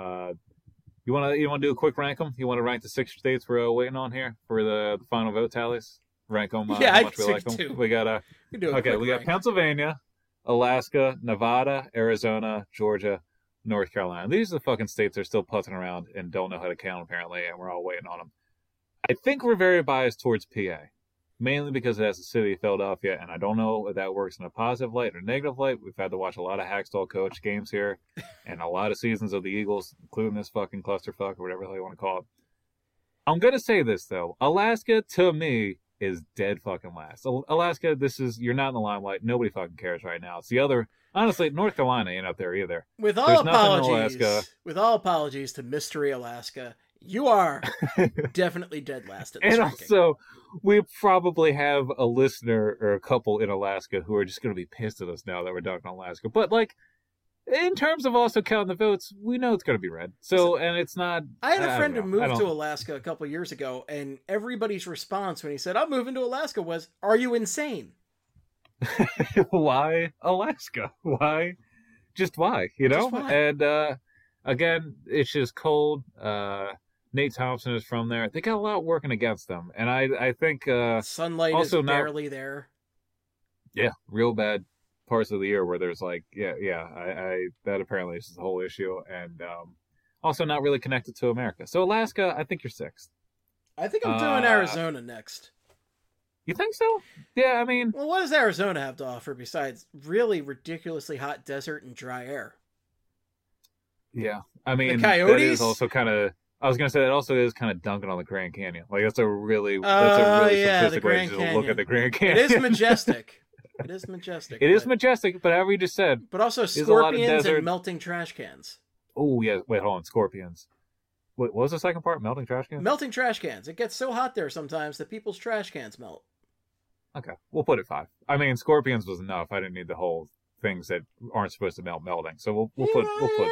you want to do a quick rank them? You want to rank the 6 states we're waiting on here for the final vote tallies? Rank them how much we like them? Too. We got we got Pennsylvania, Alaska, Nevada, Arizona, Georgia, North Carolina. These are the fucking states that are still putzing around and don't know how to count, apparently, and we're all waiting on them. I think we're very biased towards PA, mainly because it has the city of Philadelphia, and I don't know if that works in a positive light or negative light. We've had to watch a lot of Hackstall coach games here, and a lot of seasons of the Eagles, including this fucking clusterfuck or whatever the hell you want to call it. I'm going to say this, though. Alaska, to me, is dead fucking last. Alaska, you're not in the limelight. Nobody fucking cares right now. It's the other... Honestly, North Carolina ain't up there either. With all apologies to Mystery Alaska, you are definitely dead last at this ranking. Also, we probably have a listener or a couple in Alaska who are just going to be pissed at us now that we're dunking on Alaska. But, in terms of also counting the votes, we know it's going to be red. So, and it's not... I had a friend who moved to Alaska a couple years ago, and everybody's response when he said, I'm moving to Alaska was, are you insane? Why Alaska? Why? Just why? You know? Why? And again, it's just cold. Nate Thompson is from there. They got a lot working against them, and I think sunlight also is barely there. Yeah, real bad parts of the year where there's that apparently is the whole issue. And Also not really connected to America. So Alaska, I think you're 6th. I think I'm doing Arizona next. You think so? Yeah, I mean... Well, what does Arizona have to offer besides really ridiculously hot desert and dry air? Yeah. I mean, the Coyotes? That is also kind of... I was going to say, that also is kind of dunking on the Grand Canyon. Like, that's a really simplistic way to look at the Grand Canyon. It is majestic. It is majestic. It is majestic, but however you just said... But also scorpions and melting trash cans. Oh, yeah. Wait, hold on. Scorpions. What was the second part? Melting trash cans? Melting trash cans. It gets so hot there sometimes that people's trash cans melt. Okay, we'll put it 5. I mean, scorpions was enough. I didn't need the whole things that aren't supposed to melt melting. So we'll put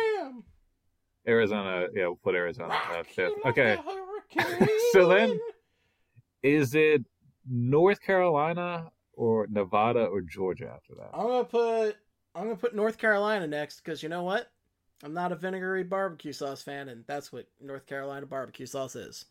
Arizona. Yeah, we'll put Arizona at 5th. Okay. So then, is it North Carolina or Nevada or Georgia after that? I'm gonna put North Carolina next because you know what? I'm not a vinegary barbecue sauce fan, and that's what North Carolina barbecue sauce is.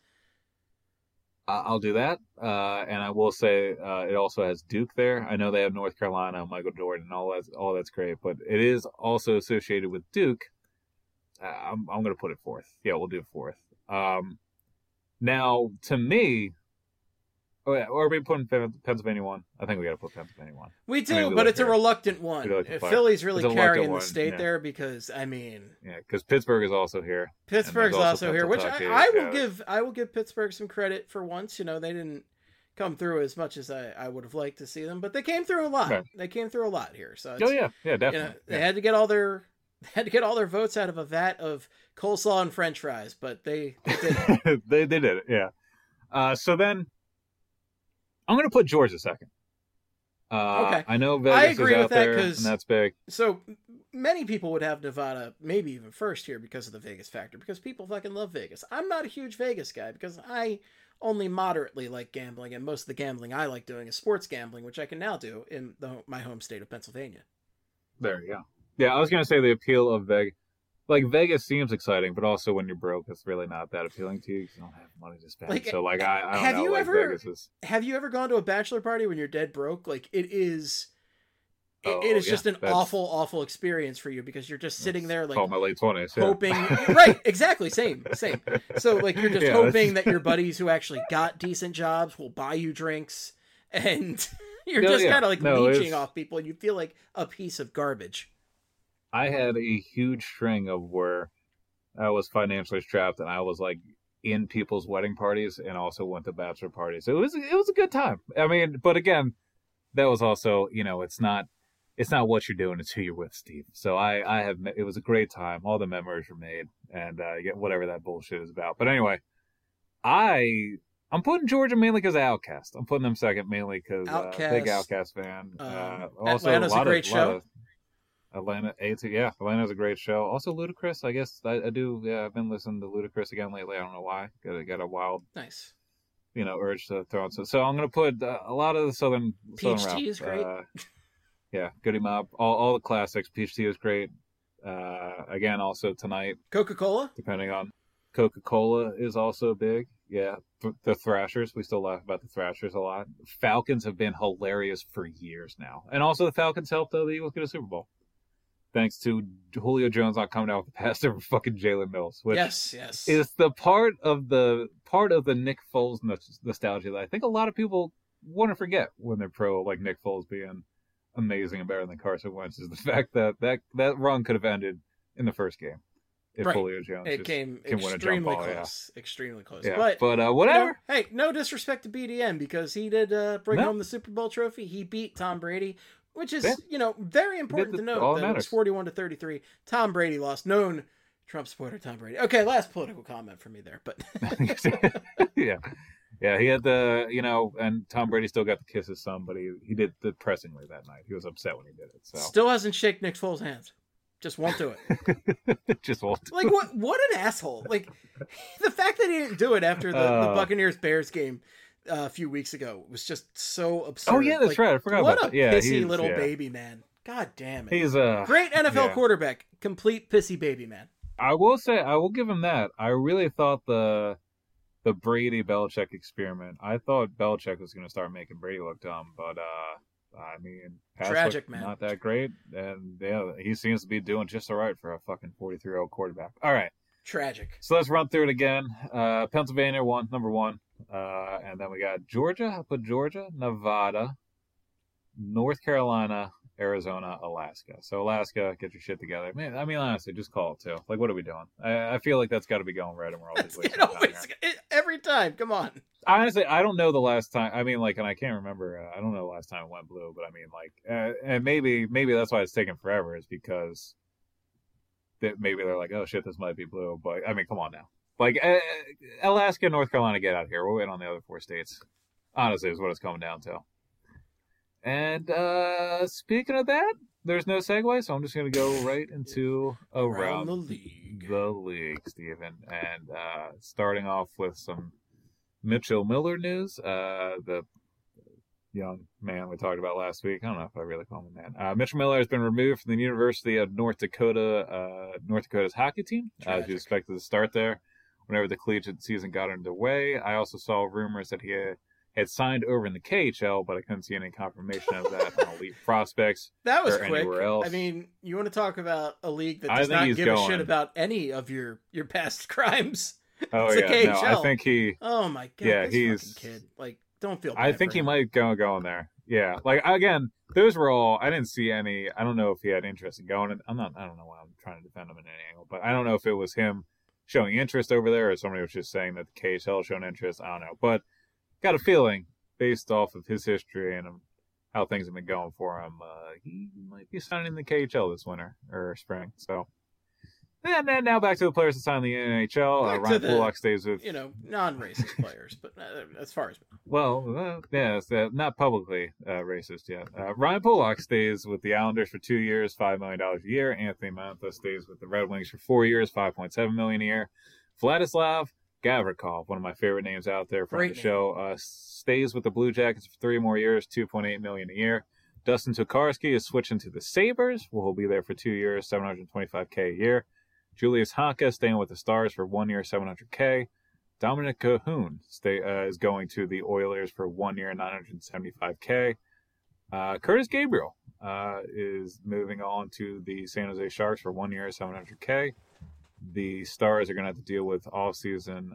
I'll do that, and I will say it also has Duke there. I know they have North Carolina, Michael Jordan, all that's great, but it is also associated with Duke. I'm going to put it 4th. Yeah, we'll do 4th. Now, to me, are we putting Pennsylvania 1? I think we got to put Pennsylvania 1. We do, but it's a reluctant one. Philly's really carrying the state there because, I mean... Yeah, because Pittsburgh is also here. Pittsburgh's also here, which I will give Pittsburgh some credit for once. You know, they didn't come through as much as I would have liked to see them, but they came through a lot. Right. They came through a lot here. So definitely. You know, they had to get all their votes out of a vat of coleslaw and French fries, but they did it. they did it, yeah. So then... I'm going to put Georgia 2nd. Okay. I know Vegas is out there, and that's big. So many people would have Nevada maybe even first here because of the Vegas factor, because people fucking love Vegas. I'm not a huge Vegas guy because I only moderately like gambling, and most of the gambling I like doing is sports gambling, which I can now do in my home state of Pennsylvania. There you go. Yeah, I was going to say the appeal of Vegas. Like, Vegas seems exciting, but also when you're broke, it's really not that appealing to you because you don't have money to spend. Like, so, like, I don't know. Vegas is... Have you ever gone to a bachelor party when you're dead broke? Like, it is just an awful experience for you because you're just sitting there, like... my late 20s, hoping... Right, exactly, same. So, like, you're just hoping that your buddies who actually got decent jobs will buy you drinks, and you're just kind of, like, leeching off people, and you feel like a piece of garbage. I had a huge string of where I was financially strapped and I was like in people's wedding parties and also went to bachelor parties. So it was a good time. I mean, but again, that was also, you know, it's not what you're doing, it's who you're with, Steve. So it was a great time. All the memories were made and you get whatever that bullshit is about. But anyway, I'm putting Georgia mainly because of Outkast. I'm putting them 2nd mainly because big Outkast fan. Also, Atlanta's a great show. Atlanta's a great show. Also, Ludacris, I guess I do. Yeah, I've been listening to Ludacris again lately. I don't know why. Got a wild, nice, urge to throw on. So I'm gonna put a lot of the southern Peach rap. Tea is great. Yeah, Goody Mob, all the classics. Peach Tea is great. Again, also tonight. Coca-Cola. Depending on Coca-Cola is also big. Yeah, the Thrashers. We still laugh about the Thrashers a lot. Falcons have been hilarious for years now, and also the Falcons helped the Eagles get a Super Bowl. Thanks to Julio Jones not coming out with the pass over fucking Jalen Mills, which is the part of the Nick Foles nostalgia that I think a lot of people want to forget when they're pro, like Nick Foles being amazing and better than Carson Wentz, is the fact that run could have ended in the first game if Julio Jones can win a jump ball. Extremely close. Yeah. But whatever. Hey, no disrespect to BDM because he did bring home the Super Bowl trophy. He beat Tom Brady. Which is, very important to note that it was 41-33. Tom Brady lost. Known Trump supporter Tom Brady. Okay, last political comment from me there, but yeah, he had and Tom Brady still got to kiss his son, but he did depressingly that night. He was upset when he did it. So still hasn't shaken Nick Foles' hands. Just won't do it. Just won't. Like what an asshole! Like the fact that he didn't do it after the Buccaneers-Bears game. A few weeks ago was just so absurd. Oh yeah, that's right. I forgot about that. What a pissy little baby man. God damn it. He's a great NFL quarterback. Complete pissy baby man. I will say, I will give him that. I really thought the Brady Belichick experiment. I thought Belichick was going to start making Brady look dumb, but I mean, tragic man, not that great, and yeah, he seems to be doing just all right for a fucking 43-year-old quarterback. All right, Tragic. So let's run through it again. Pennsylvania won, number one. And then we got Georgia. I put Georgia, Nevada, North Carolina, Arizona, Alaska. So Alaska, get your shit together. Man, I mean, honestly, just call it too. Like, what are we doing? I feel like that's got to be going right, and we're always wasting time here. Every time. Come on. Honestly, I don't know the last time. I mean, like, and I can't remember. I don't know the last time it went blue, but I mean, like, and maybe that's why it's taking forever, is because maybe they're like, oh shit, this might be blue. But I mean, come on now. Like, Alaska, North Carolina, get out here. We'll wait on the other four states. Honestly, is what it's coming down to. And speaking of that, there's no segue, so I'm just going to go right into around the league. The league, Steven. And starting off with some Mitchell Miller news. The young man we talked about last week. I don't know if I really call him a man. Mitchell Miller has been removed from the University of North Dakota's hockey team. As you expected to start there whenever the collegiate season got underway. I also saw rumors that he had signed over in the KHL, but I couldn't see any confirmation of that on Elite Prospects. That was or quick. Anywhere else. I mean, you want to talk about a league that does not give a shit about any of your past crimes. Oh, it's yeah. the KHL. No, I think he... Oh, my God. Yeah, this he's... fucking kid. Like, don't feel bad I think for he him. might go in there. Yeah. Like, again, those were all... I didn't see any... I don't know if he had interest in going. I don't know why I'm trying to defend him in any angle, but I don't know if it was him showing interest over there or somebody was just saying that the KHL showing interest. I don't know. But got a feeling, based off of his history and how things have been going for him, he might be signing the KHL this winter or spring. So, and then now back to the players that signed the NHL. Ryan Pulock stays with non-racist players, but as far as it's not publicly racist yet. Ryan Pulock stays with the Islanders for 2 years, $5 million a year. Anthony Mantha stays with the Red Wings for 4 years, $5.7 million a year. Vladislav Gavrikov, one of my favorite names out there from the show, stays with the Blue Jackets for 3 more years, $2.8 million a year. Dustin Tokarski is switching to the Sabres. He'll be there for 2 years, $725K a year. Julius Honka staying with the Stars for 1 year, $700K. Dominic Cahoon is going to the Oilers for 1 year, $975K. Curtis Gabriel is moving on to the San Jose Sharks for 1 year, $700K. The Stars are going to have to deal with off-season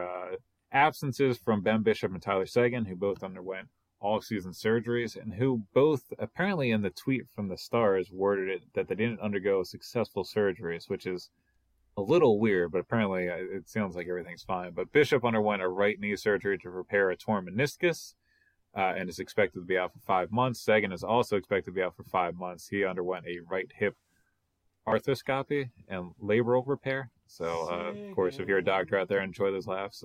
absences from Ben Bishop and Tyler Seguin, who both underwent off-season surgeries, and who both, apparently in the tweet from the Stars, worded it that they didn't undergo successful surgeries, which is a little weird, but apparently it sounds like everything's fine. But Bishop underwent a right knee surgery to repair a torn meniscus and is expected to be out for 5 months. Seguin is also expected to be out for 5 months. He underwent a right hip arthroscopy and labral repair. So, of course, if you're a doctor out there, enjoy those laughs.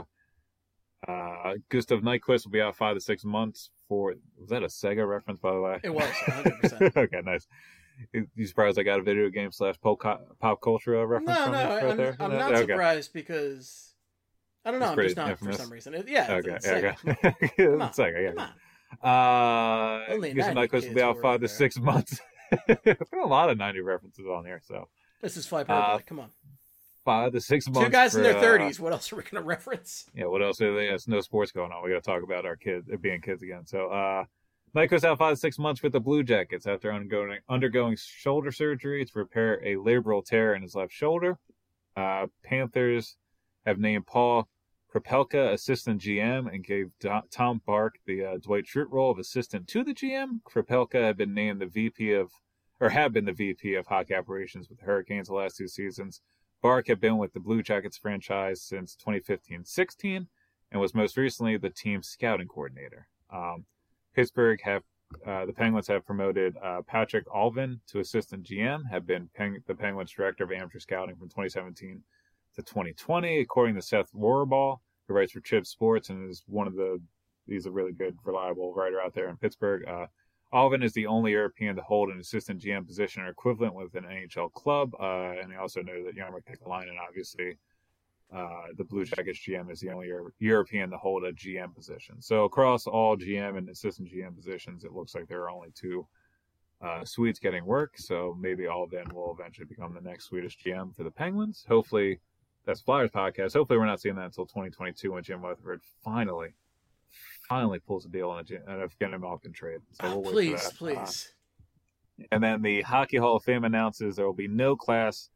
Gustav Nyquist will be out 5 to 6 months for... Was that a Sega reference, by the way? It was, 100%. Okay, nice. You surprised I got a video game / pop culture reference from right there? I'm not surprised because... I don't know, I'm just not infamous. for some reason. Okay. Come on. Sega, yeah. Gustav Nyquist will be out 5 to 6 months. There's been a lot of 90 references on here, so... This is Fly Purple, come on. 5 to 6 months. 2 guys in their 30s. What else are we going to reference? Yeah, what else? There's no sports going on. We got to talk about our kids being kids again. So, Nyquist out 5 to 6 months with the Blue Jackets after undergoing shoulder surgery to repair a labral tear in his left shoulder. Panthers have named Paul Kropelka assistant GM and gave Tom Bark the Dwight Schrute role of assistant to the GM. Kropelka had been named the VP of hockey operations with the Hurricanes the last 2 seasons. Bark had been with the Blue Jackets franchise since 2015-16 and was most recently the team's scouting coordinator. Pittsburgh the Penguins have promoted Patrick Alvin to assistant GM, have been the Penguins director of amateur scouting from 2017 to 2020, according to Seth Rohrball, who writes for Chip Sports and is he's a really good, reliable writer out there in Pittsburgh. Alvin is the only European to hold an assistant GM position or equivalent with an NHL club, and I also know that Jarmo Kekalainen, obviously, the Blue Jackets GM, is the only European to hold a GM position. So across all GM and assistant GM positions, it looks like there are only 2 Swedes getting work, so maybe Alvin will eventually become the next Swedish GM for the Penguins. Hopefully, that's Flyers podcast. Hopefully we're not seeing that until 2022 when Jim Rutherford finally pulls a deal on a getting him off in trade. So we'll wait for that. Please. And then the Hockey Hall of Fame announces there will be no class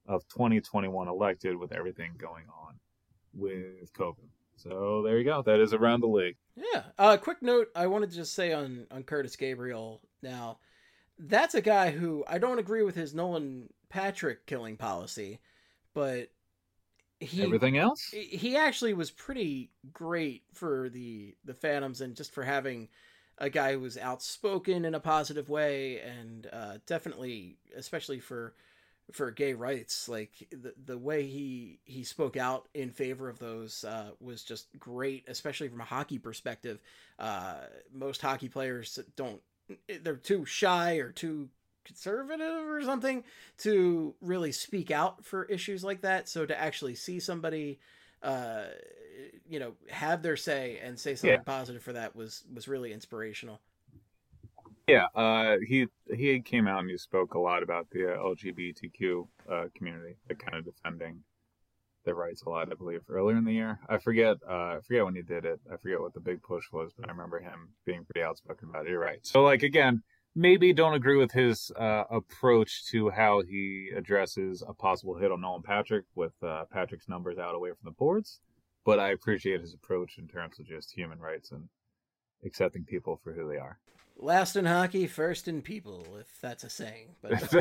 of 2021 elected with everything going on with COVID. So there you go. That is around the league. Yeah. Quick note I wanted to just say on Curtis Gabriel now. That's a guy who I don't agree with his Nolan Patrick killing policy, but everything else? He actually was pretty great for the Phantoms and just for having a guy who was outspoken in a positive way and definitely, especially for gay rights, like the way he spoke out in favor of those was just great, especially from a hockey perspective. Most hockey players they're too shy or too conservative or something to really speak out for issues like that. So to actually see somebody, have their say and say something positive for that was really inspirational. Yeah, he came out and he spoke a lot about the LGBTQ community, kind of defending their rights a lot, I believe, earlier in the year. I forget when he did it. I forget what the big push was, but I remember him being pretty outspoken about it. You're right. So, again, maybe don't agree with his approach to how he addresses a possible hit on Nolan Patrick with Patrick's numbers out away from the boards, but I appreciate his approach in terms of just human rights and accepting people for who they are. Last in hockey, first in people, if that's a saying. But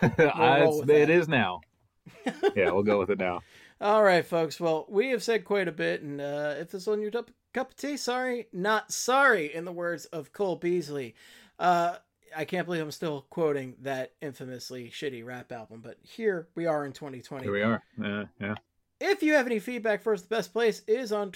it is now. Yeah, we'll go with it now. All right, folks. Well, we have said quite a bit, and if this is on your cup of tea, sorry, not sorry, in the words of Cole Beasley. I can't believe I'm still quoting that infamously shitty rap album, but here we are in 2020. Here we are. Yeah. If you have any feedback for us, the best place is on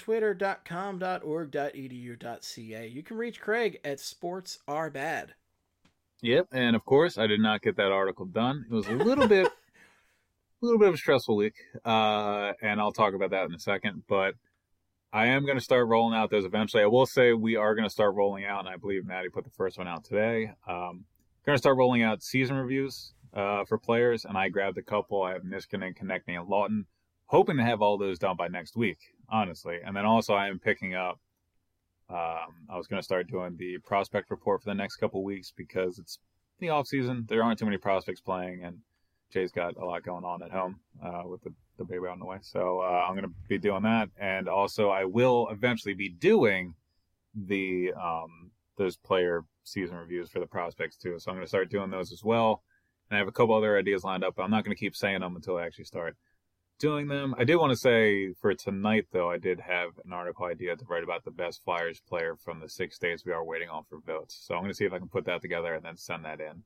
twitter.com.org.edu.ca. You can reach Craig at sportsarbad. Yep, and of course, I did not get that article done. It was a little bit of a stressful week, and I'll talk about that in a second, but I am going to start rolling out those eventually. I will say we are going to start rolling out, and I believe Maddie put the first one out today. Going to start rolling out season reviews for players, and I grabbed a couple. I have Niskanen, Konechny, and Lawton. Hoping to have all those done by next week, honestly. And then also I am picking up, I was going to start doing the prospect report for the next couple weeks because it's the off season. There aren't too many prospects playing, and Jay's got a lot going on at home with the baby on the way. So I'm going to be doing that. And also I will eventually be doing the those player season reviews for the prospects too. So I'm going to start doing those as well. And I have a couple other ideas lined up, but I'm not going to keep saying them until I actually start doing them. I did want to say for tonight, though, I did have an article idea to write about the best Flyers player from the 6 states we are waiting on for votes. So I'm going to see if I can put that together and then send that in.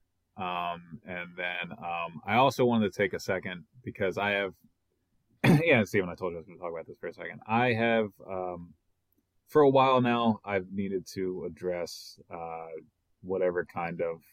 And then I also wanted to take a second because I have, Steven, I told you I was going to talk about this for a second. I have, for a while now, I've needed to address whatever kind of,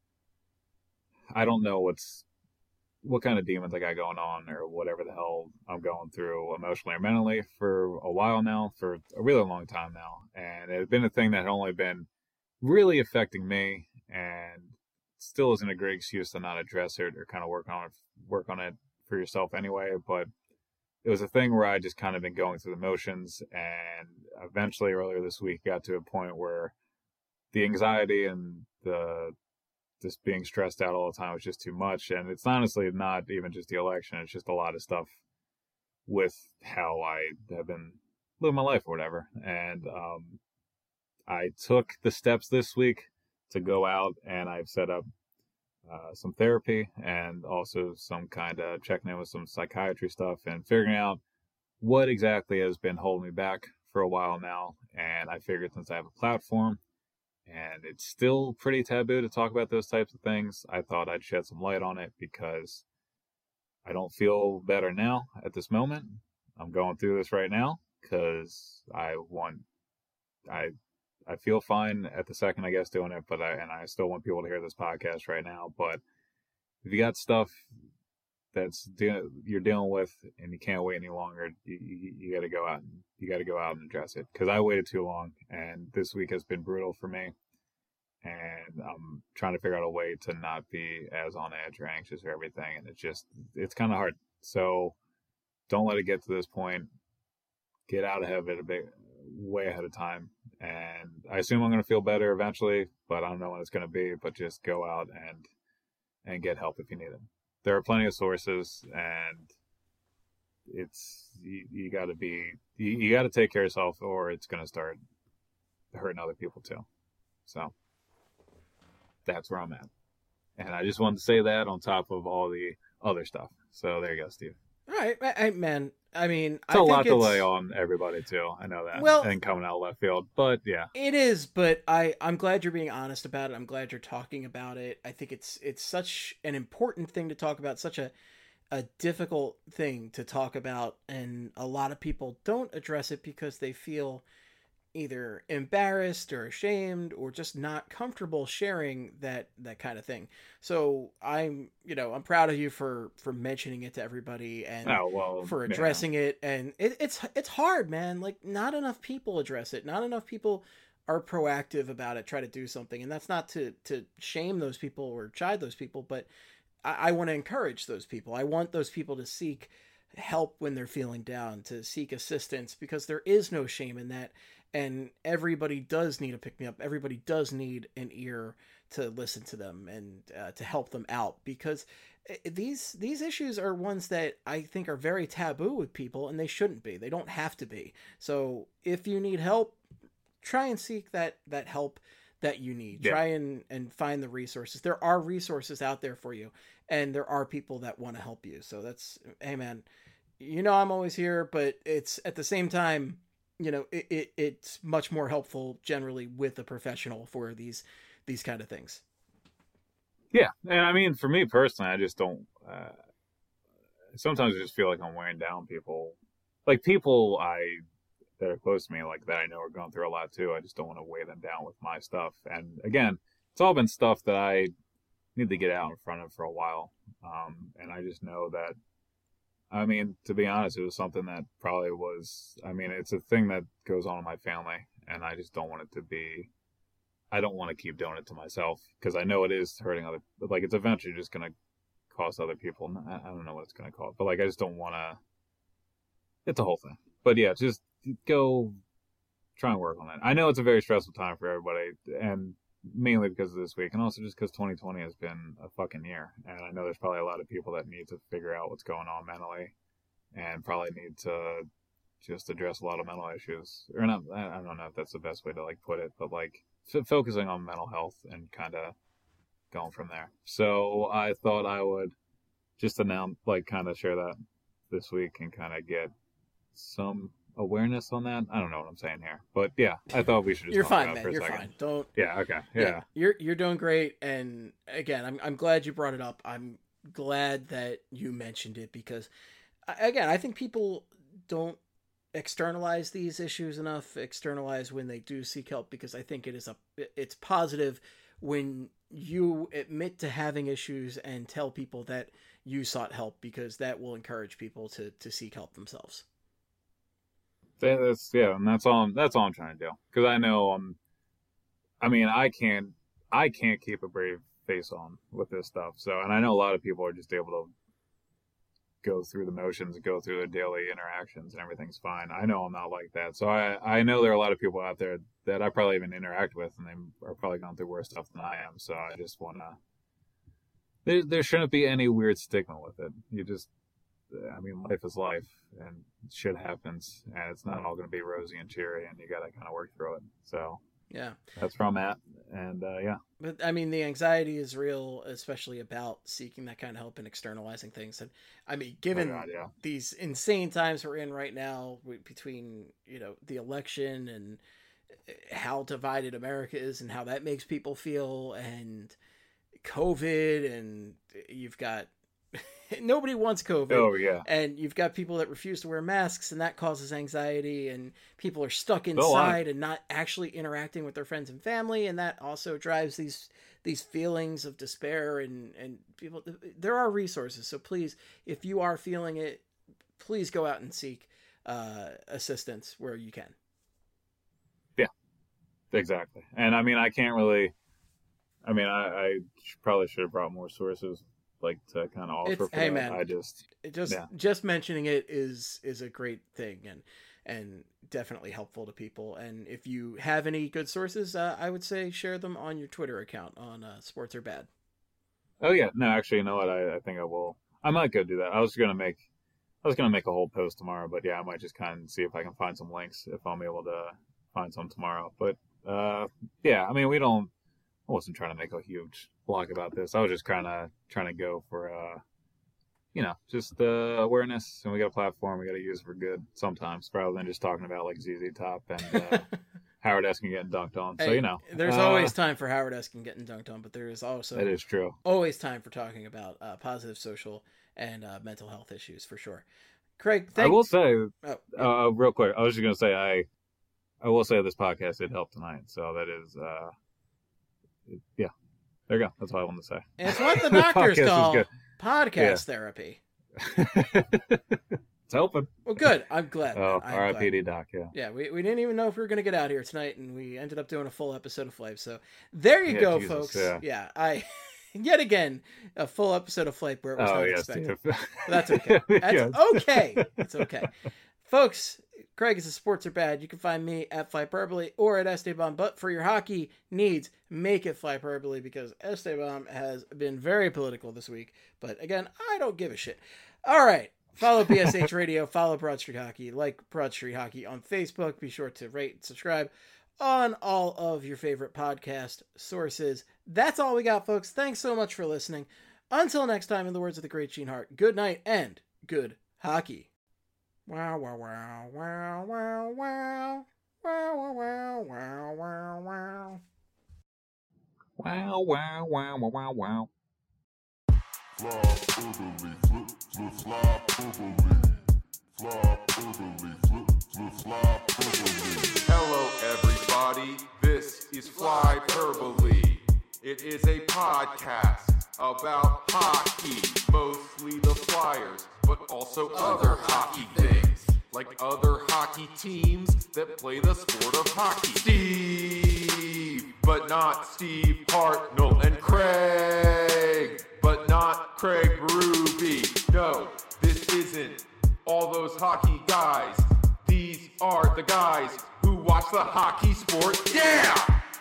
I don't know what kind of demons I got going on or whatever the hell I'm going through emotionally or mentally for a while now, for a really long time now. And it had been a thing that had only been really affecting me and still isn't a great excuse to not address it or kind of work on it for yourself anyway. But it was a thing where I just kind of been going through the motions, and eventually earlier this week got to a point where the anxiety and just being stressed out all the time was just too much. And it's honestly not even just the election. It's just a lot of stuff with how I have been living my life or whatever. And I took the steps this week to go out, and I've set up some therapy and also some kind of checking in with some psychiatry stuff and figuring out what exactly has been holding me back for a while now. And I figured since I have a platform, and it's still pretty taboo to talk about those types of things, I thought I'd shed some light on it because I don't feel better now at this moment. I'm going through this right now because I feel fine at the second, I guess, doing it, but I still want people to hear this podcast right now. But if you got stuff you're dealing with and you can't wait any longer, you got to go out and address it, because I waited too long, and this week has been brutal for me, and I'm trying to figure out a way to not be as on edge or anxious or everything, and it's kind of hard. So don't let it get to this point. Get out ahead of it way ahead of time, and I assume I'm going to feel better eventually, but I don't know when it's going to be. But just go out and get help if you need it. there are plenty of sources, and it's you got to be you got to take care of yourself, or it's going to start hurting other people too. So that's where I'm at, and I just wanted to say that on top of all the other stuff. So there you go, Steve. All right, man. I mean, it's a lot to lay on everybody too. I know that. Well, and coming out of left field, but yeah, it is. But I'm glad you're being honest about it. I'm glad you're talking about it. I think it's such an important thing to talk about. Such a difficult thing to talk about, and a lot of people don't address it because they feel either embarrassed or ashamed or just not comfortable sharing that kind of thing. So I'm proud of you for mentioning it to everybody and for addressing it. And it's hard, man. Like, not enough people address it. Not enough people are proactive about it, try to do something. And that's not to shame those people or chide those people, but I want to encourage those people. I want those people to seek help when they're feeling down, to seek assistance, because there is no shame in that. And everybody does need a pick-me-up. Everybody does need an ear to listen to them and to help them out, because these issues are ones that I think are very taboo with people, and they shouldn't be. They don't have to be. So if you need help, try and seek that help that you need. Try and find the resources. There are resources out there for you, and there are people that want to help you. So that's, hey man, I'm always here, but it's at the same time, it's much more helpful generally with a professional for these kind of things. Yeah. And I mean, for me personally, I just don't, sometimes I just feel like I'm wearing down people, like people that are close to me, like that I know are going through a lot too. I just don't want to weigh them down with my stuff. And again, it's all been stuff that I need to get out in front of for a while. And I just know that, I mean, to be honest, it was something that probably was, I mean, it's a thing that goes on in my family, and I just don't want it to be, I don't want to keep doing it to myself, because I know it is hurting other, like, it's eventually just going to cost other people. I don't know what it's going to cost, but like, I just don't want to, it's a whole thing. But yeah, just go try and work on it. I know it's a very stressful time for everybody, and mainly because of this week, and also just because 2020 has been a fucking year. And I know there's probably a lot of people that need to figure out what's going on mentally, and probably need to just address a lot of mental issues. Or not, I don't know if that's the best way to like put it, but like focusing on mental health and kind of going from there. So I thought I would just announce, like, kind of share that this week and kind of get some awareness on that. I don't know what I'm saying here, but yeah, I thought we should just You're fine, man. You're fine. Don't. Yeah. Okay. Yeah. You're doing great. And again, I'm glad you brought it up. I'm glad that you mentioned it, because again, I think people don't externalize these issues enough, externalize when they do seek help, because I think it's positive when you admit to having issues and tell people that you sought help, because that will encourage people to seek help themselves. And that's all I'm trying to do, because I know I can't keep a brave face on with this stuff. So, and I know a lot of people are just able to go through the motions and go through their daily interactions and everything's fine. I know I'm not like that. So I know there are a lot of people out there that I probably even interact with, and they are probably going through worse stuff than I am. So I just want to, there shouldn't be any weird stigma with it. Life is life, and shit happens, and it's not all going to be rosy and cheery, and you got to kind of work through it. So yeah, that's where I'm at. And yeah. But I mean, the anxiety is real, especially about seeking that kind of help and externalizing things. And I mean, given these insane times we're in right now, between, the election and how divided America is and how that makes people feel, and COVID, and you've got nobody wants COVID. Oh yeah. And you've got people that refuse to wear masks, and that causes anxiety, and people are stuck inside and not actually interacting with their friends and family, and that also drives these feelings of despair, and people, there are resources. So please, if you are feeling it, please go out and seek assistance where you can. Yeah. Exactly. And I mean, I can't really, I probably should have brought more sources, like, to kind of offer for that. Man, I just mentioning it is a great thing, and definitely helpful to people. And if you have any good sources, I would say share them on your Twitter account on Sports Are Bad. Oh yeah, no, actually, you know what? I think I will. I might go do that. I was gonna make a whole post tomorrow, but yeah, I might just kind of see if I can find some links if I'm able to find some tomorrow. But yeah, I mean, I wasn't trying to make a huge blog about this. I was just kind of trying to go for just awareness, and we got a platform we got to use for good sometimes, rather than just talking about like ZZ Top and Howard Eskin getting dunked on. Hey, so there's always time for Howard Eskin getting dunked on, but there is also that is true. Always time for talking about positive social and mental health issues for sure. Craig, I will say, real quick, I was just gonna say I will say this podcast did help tonight, so that is yeah. There you go. That's all I wanted to say. And it's what the doctors call podcast therapy. It's helping. Well, good. I'm glad. R.I.P.D. Doc, yeah. Yeah, we didn't even know if we were going to get out here tonight, and we ended up doing a full episode of Flight. So there you go, Jesus, folks. Yeah, yet again, a full episode of Flight where it was not expected. That's okay. That's okay. It's okay. Folks, Craig is a Sports Are Bad. You can find me at Flyperbole or at Esteban. But for your hockey needs, make it Flyperbole, because Esteban has been very political this week. But again, I don't give a shit. All right. Follow BSH Radio. Follow Broad Street Hockey. Like Broad Street Hockey on Facebook. Be sure to rate and subscribe on all of your favorite podcast sources. That's all we got, folks. Thanks so much for listening. Until next time, in the words of the great Gene Hart, good night and good hockey. Wow, wow, wow, wow, wow, wow. Wow, wow, wow, wow, wow. Wow, wow, wow, wow, wow, wow. Hello, everybody. This is Flyperbole. It is a podcast about hockey, mostly the Flyers, but also other hockey things, like other hockey teams that play the sport of hockey. Steve, but not Steve Hartnell, and Craig, but not Craig Berube. No, this isn't all those hockey guys. These are the guys who watch the hockey sport. Yeah!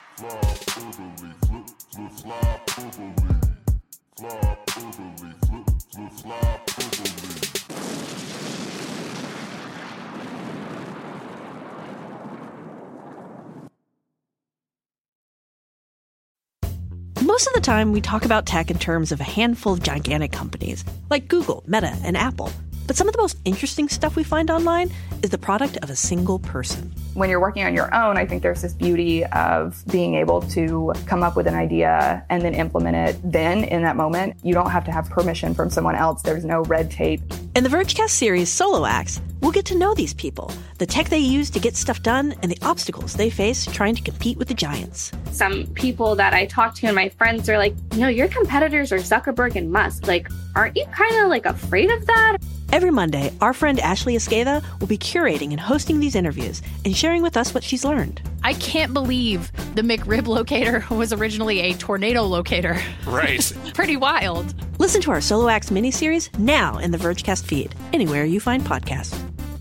Most of the time, we talk about tech in terms of a handful of gigantic companies, like Google, Meta, and Apple. But some of the most interesting stuff we find online is the product of a single person. When you're working on your own, I think there's this beauty of being able to come up with an idea and then implement it then in that moment. You don't have to have permission from someone else. There's no red tape. In the Vergecast series Solo Acts, we'll get to know these people, the tech they use to get stuff done, and the obstacles they face trying to compete with the giants. Some people that I talk to and my friends are like, your competitors are Zuckerberg and Musk. Like, aren't you kind of like afraid of that? Every Monday, our friend Ashley Esqueda will be curating and hosting these interviews and sharing with us what she's learned. I can't believe the McRib locator was originally a tornado locator. Right. Pretty wild. Listen to our Solo Acts miniseries now in the Vergecast feed, anywhere you find podcasts.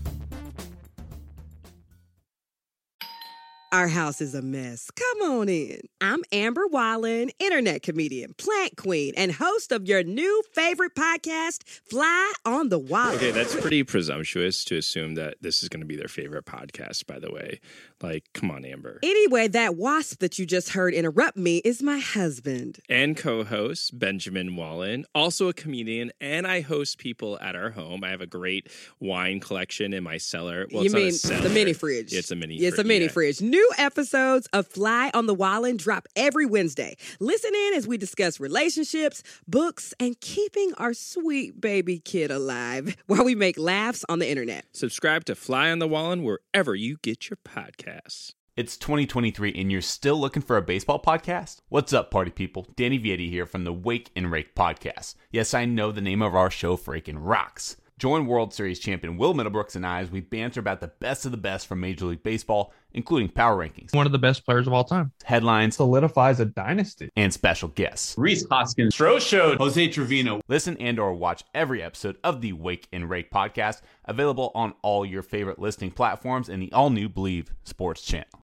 Our house is a mess. Come on in. I'm Amber Wallen, internet comedian, plant queen, and host of your new favorite podcast, Fly on the Wallen. Okay, that's pretty presumptuous to assume that this is going to be their favorite podcast, by the way. Like, come on, Amber. Anyway, that wasp that you just heard interrupt me is my husband. And co-host, Benjamin Wallen, also a comedian, and I host people at our home. I have a great wine collection in my cellar. Well, you mean the mini fridge? Yeah, it's a mini fridge. It's a mini fridge. New episodes of Fly on the Wallen drop every Wednesday. Listen in as we discuss relationships, books, and keeping our sweet baby kid alive while we make laughs on the internet. Subscribe to Fly on the Wallen wherever you get your podcasts. It's 2023 and you're still looking for a baseball podcast? What's up, party people? Danny Vietti here from the Wake and Rake podcast. Yes, I know the name of our show freaking rocks. Join World Series champion Will Middlebrooks and I as we banter about the best of the best from Major League Baseball, including power rankings, one of the best players of all time, headlines, solidifies a dynasty, and special guests. Rhys Hoskins, Stroh Show, Jose Trevino. Listen and or watch every episode of the Wake and Rake podcast, available on all your favorite listening platforms and the all-new Believe Sports channel.